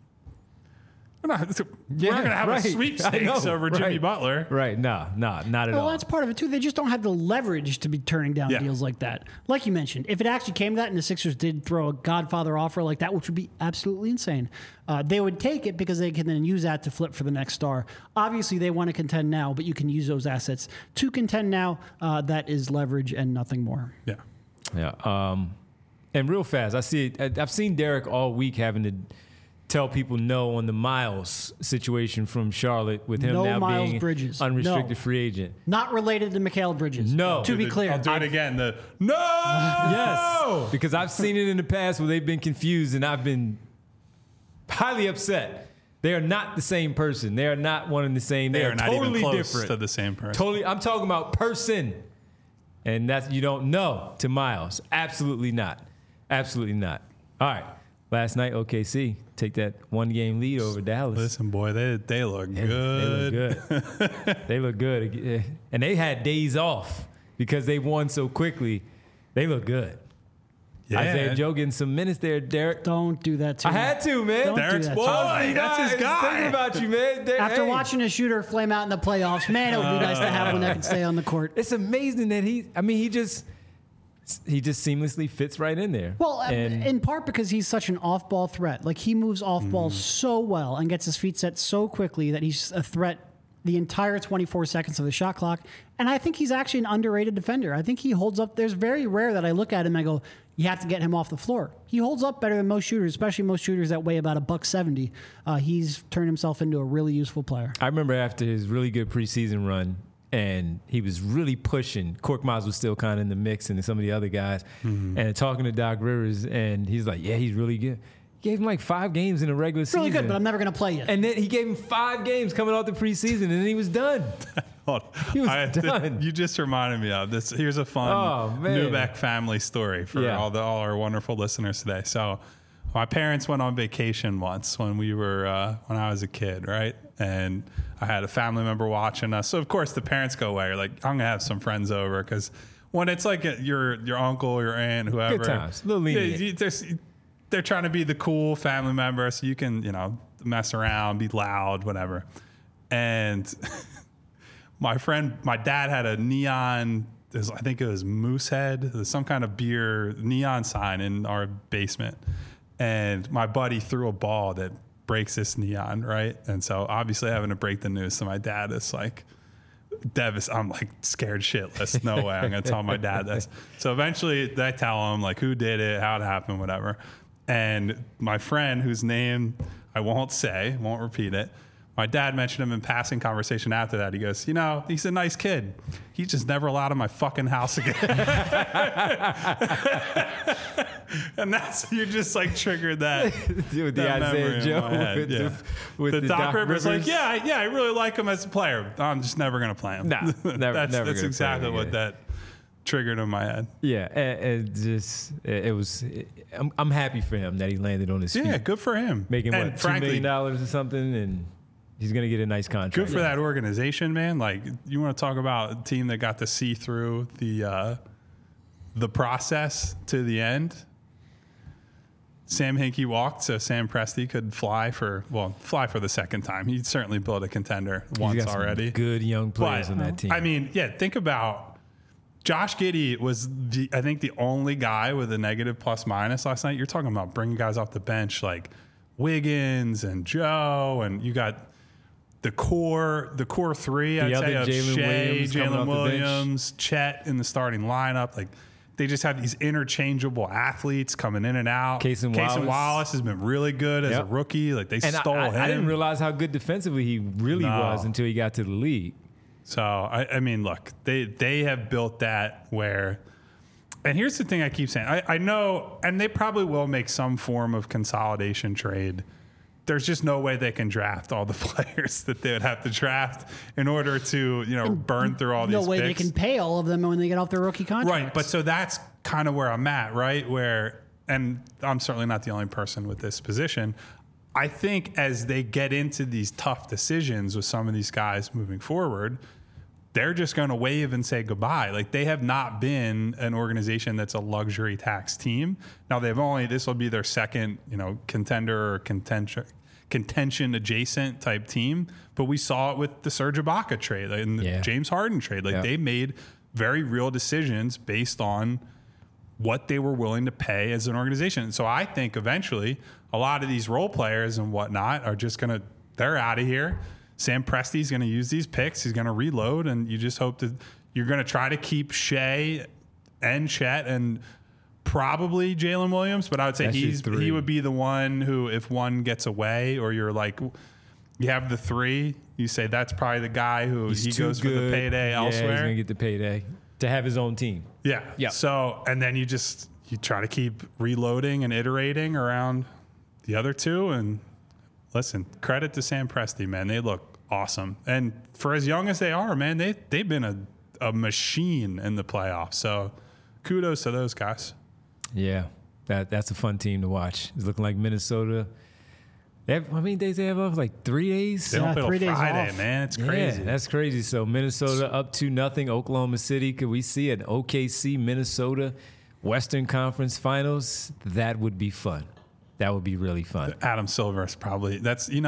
we're not going to have a sweepstakes over Jimmy Butler. Right. No, not at all. Well, that's part of it too. They just don't have the leverage to be turning down deals like that. Like you mentioned, if it actually came to that and the Sixers did throw a Godfather offer like that, which would be absolutely insane, they would take it because they can then use that to flip for the next star. Obviously, they want to contend now, but you can use those assets to contend now. That is leverage and nothing more. Yeah. Yeah. And real fast, I've seen Derek all week having to tell people no on the Miles situation from Charlotte with him now Miles being Bridges. unrestricted free agent. Not related to Mikal Bridges. No. To be clear. I'll do it again. No! Yes. Because I've seen it in the past where they've been confused and I've been highly upset. They are not the same person. They are not one and the same. They are not totally even close different. to the same person. Totally. I'm talking about person. And that's, you don't know to Miles. Absolutely not. Absolutely not. All right. Last night, OKC take that 1-game lead over Dallas. Listen, boy, they look good. They look good. They look good. And they had days off because they won so quickly. They look good. Yeah. Isaiah Joe getting some minutes there, Derek. Don't do that to me. I had to, man. Don't Derek's do that boy. That's his guy. Thinking about you, man. After watching a shooter flame out in the playoffs, man, it would be nice to have one that can stay on the court. It's amazing that he just seamlessly fits right in there. Well, in part because he's such an off-ball threat. Like, he moves off-ball so well and gets his feet set so quickly that he's a threat the entire 24 seconds of the shot clock. And I think he's actually an underrated defender. I think he holds up. There's very rare that I look at him and I go, you have to get him off the floor. He holds up better than most shooters, especially most shooters that weigh about $170. He's turned himself into a really useful player. I remember after his really good preseason run, and he was really pushing. Korkmaz was still kind of in the mix, and some of the other guys. And talking to Doc Rivers, and he's like, yeah, he's really good. He gave him like 5 games in a regular season. Really good, but I'm never going to play you. And then he gave him 5 games coming off the preseason, and then he was done. He was done. You just reminded me of this. Here's a fun Newbeck family story for all our wonderful listeners today. So my parents went on vacation once when when I was a kid, right? And I had a family member watching us. So of course the parents go away. You're like, I'm gonna have some friends over, because when it's like your uncle, your aunt, whoever, good times, a little lenient. They're trying to be the cool family member, so you can mess around, be loud, whatever. And my dad had a neon, I think it was Moosehead, some kind of beer neon sign in our basement. And my buddy threw a ball that breaks this neon, right? And so obviously having to break the news. So my dad is like, I'm like scared shitless. No way I'm going to tell my dad this. So eventually I tell him like who did it, how it happened, whatever. And my friend, whose name I won't repeat it, my dad mentioned him in passing conversation after that. He goes, he's a nice kid. He's just never allowed in my fucking house again. And you just like triggered that. With the Isaiah Joe. With the Doc Rivers. Like, I really like him as a player. I'm just never going to play him. Nah, that's exactly what that triggered in my head. Yeah, I'm happy for him that he landed on his feet. Yeah, good for him. Making $2 million or something, and he's going to get a nice contract. Good for that organization, man. Like, you want to talk about a team that got to see through the process to the end. Sam Hinkie walked so Sam Presti could fly for the second time. He certainly built a contender once already. Good young players on that team. I mean, think about Josh Giddey was I think the only guy with a negative plus minus last night. You're talking about bringing guys off the bench like Wiggins and Joe, and you got the core three. I'd say of Shea, Jalen Williams, Chet in the starting lineup. Like, they just have these interchangeable athletes coming in and out. Casey Wallace has been really good as a rookie. Like, they stole him. I didn't realize how good defensively he really was until he got to the league. So, I mean, look, they have built that where – and here's the thing I keep saying. I know – and they probably will make some form of consolidation trade. There's just no way they can draft all the players that they would have to draft in order to, burn through all these picks. No way they can pay all of them when they get off their rookie contracts. Right, but so that's kind of where I'm at, right? And I'm certainly not the only person with this position. I think as they get into these tough decisions with some of these guys moving forward, they're just going to wave and say goodbye. Like, they have not been an organization that's a luxury tax team. Now this will be their second, contender or contention adjacent type team. But we saw it with the Serge Ibaka trade and the James Harden trade. Like, they made very real decisions based on what they were willing to pay as an organization. And so I think eventually a lot of these role players and whatnot are just they're out of here. Sam Presti's going to use these picks. He's going to reload, and you just hope that you're going to try to keep Shea and Chet and probably Jalen Williams. But I would say he would be the one who, if one gets away, or you're like, you have the three, you say that's probably the guy who he goes for the payday elsewhere. He's going to get the payday to have his own team. Yeah. So, and then you try to keep reloading and iterating around the other two. And listen, credit to Sam Presti, man. They look awesome. And for as young as they are, man, they've been a machine in the playoffs. So kudos to those guys. Yeah, that's a fun team to watch. It's looking like Minnesota. How many days they have off? Like 3 days? They don't play till Friday, man. It's crazy. Yeah, that's crazy. So Minnesota up 2-0. Oklahoma City. Could we see an OKC Minnesota Western Conference Finals? That would be fun. That would be really fun. Adam Silver is probably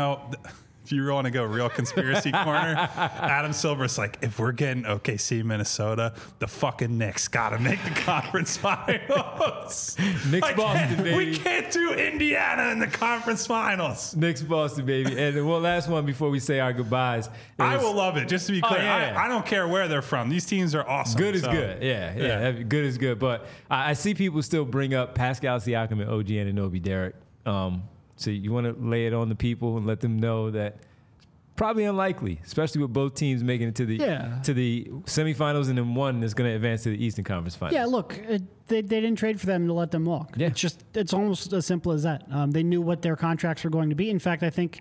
if you want to go real conspiracy corner, Adam Silver's like, if we're getting OKC Minnesota, the fucking Knicks got to make the conference finals. Knicks Boston, baby. We can't do Indiana in the conference finals. Knicks Boston, baby. And one last one before we say our goodbyes. I will love it. Just to be clear, I don't care where they're from. These teams are awesome. Good is good. Yeah. Good is good. But I see people still bring up Pascal Siakam and OG Anunoby, Derek. So you want to lay it on the people and let them know that probably unlikely, especially with both teams making it to the semifinals and then one that's going to advance to the Eastern Conference Finals. Yeah, look, they didn't trade for them to let them walk. Yeah. It's almost as simple as that. They knew what their contracts were going to be. In fact, I think,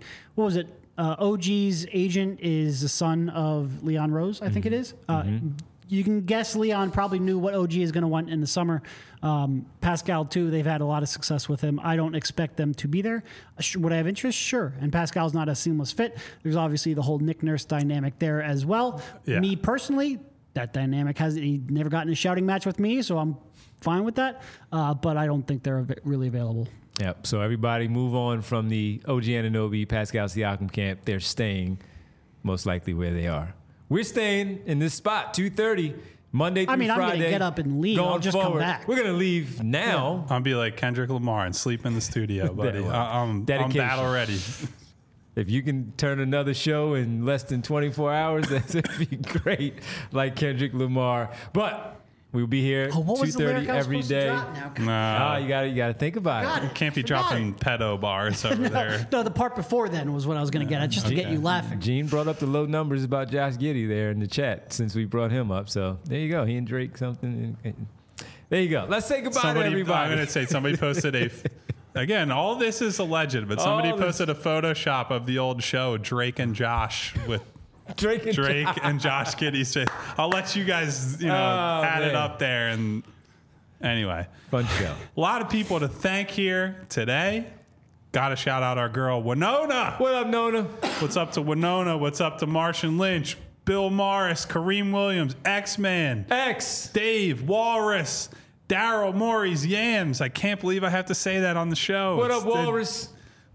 OG's agent is the son of Leon Rose, I think it is. You can guess Leon probably knew what OG is going to want in the summer. Pascal, too, they've had a lot of success with him. I don't expect them to be there. Would I have interest? Sure. And Pascal's not a seamless fit. There's obviously the whole Nick Nurse dynamic there as well. Yeah. Me personally, that dynamic he never gotten a shouting match with me, so I'm fine with that. But I don't think they're really available. Yep. So everybody move on from the OG Anunoby, Pascal Siakam camp. They're staying most likely where they are. We're staying in this spot, 2:30, Monday through Friday. I'm going to get up and leave. I'll just come back. We're going to leave now. I'll be like Kendrick Lamar and sleep in the studio, buddy. I'm battle ready. If you can turn another show in less than 24 hours, that'd be great, like Kendrick Lamar. But we'll be here 2:30 every day. No, you got to think about it. You can't be dropping pedo bars over there. No, the part before then was what I was going to get at, just to get you laughing. Gene brought up the low numbers about Josh Giddey there in the chat since we brought him up. So there you go. He and Drake something. There you go. Let's say goodbye to everybody. I'm going to say somebody posted again, all this is alleged, but somebody posted a Photoshop of the old show, Drake and Josh, with Drake and Josh Giddey's face. I'll let you guys, add it up there. And anyway, fun show. A lot of people to thank here today. Got to shout out our girl, Winona. What up, Nona? What's up to Winona? What's up to Martian Lynch, Bill Morris, Kareem Williams, X-Man, Dave, Walrus, Daryl, Maurice, Yams. I can't believe I have to say that on the show. What up, Walrus?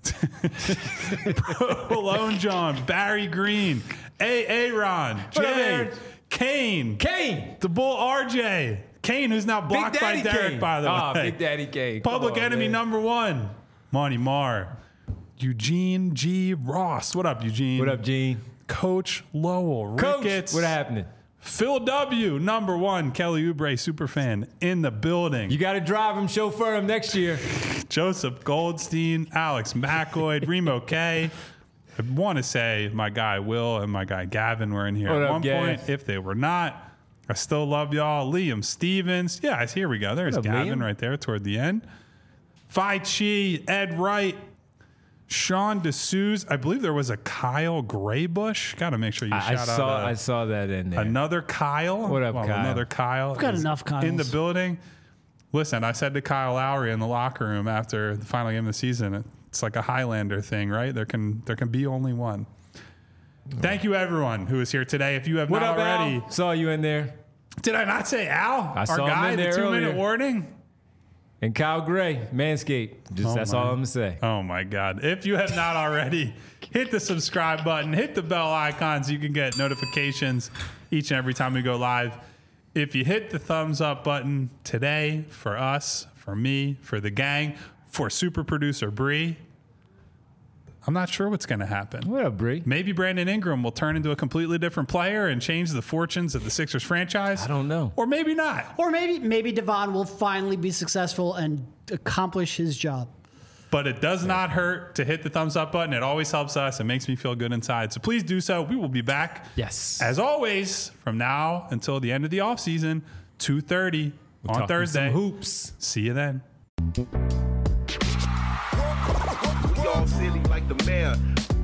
Malone John, Barry Green, Ron, Jay, Kane, the Bull RJ, Kane, who's now blocked by Derek, Kane. By the way. Big Daddy Kane. Public enemy number one, Monty Marr, Eugene G. Ross. What up, Eugene? What up, Gene? Coach Lowell, Ricketts. What happening? Phil W, number one, Kelly Oubre, superfan, in the building. You got to drive him, chauffeur him next year. Joseph Goldstein, Alex McCoy, Remo K. I want to say my guy Will and my guy Gavin were in here at one point. If they were not, I still love y'all. Liam Stevens. Yeah, here we go. There's Gavin right there toward the end. Phi Chi, Ed Wright, Sean D'Souza. I believe there was a Kyle Graybush. Got to make sure you shout out. I saw that in there. Another Kyle. What up, Kyle? Another Kyle. We've got enough Kyles in the building. Listen, I said to Kyle Lowry in the locker room after the final game of the season, it's like a Highlander thing, right? There can be only one. Thank you, everyone who is here today. If you have not already, Al? Saw you in there. Did I not say Al? I our saw guy, him in there the 2-minute earlier. warning. And Kyle Gray, Manscaped. That's all I'm going to say. Oh, my God. If you have not already, hit the subscribe button, hit the bell icon so you can get notifications each and every time we go live. If you hit the thumbs up button today for us, for me, for the gang, for super producer Bree, I'm not sure what's going to happen. What up, Bree? Maybe Brandon Ingram will turn into a completely different player and change the fortunes of the Sixers franchise. I don't know. Or maybe not. Or maybe Devon will finally be successful and accomplish his job. But it does not hurt to hit the thumbs up button. It always helps us. It makes me feel good inside. So please do so. We will be back. Yes. As always, from now until the end of the offseason, 2:30 on Thursday. Some hoops. See you then. Y'all silly like the mayor.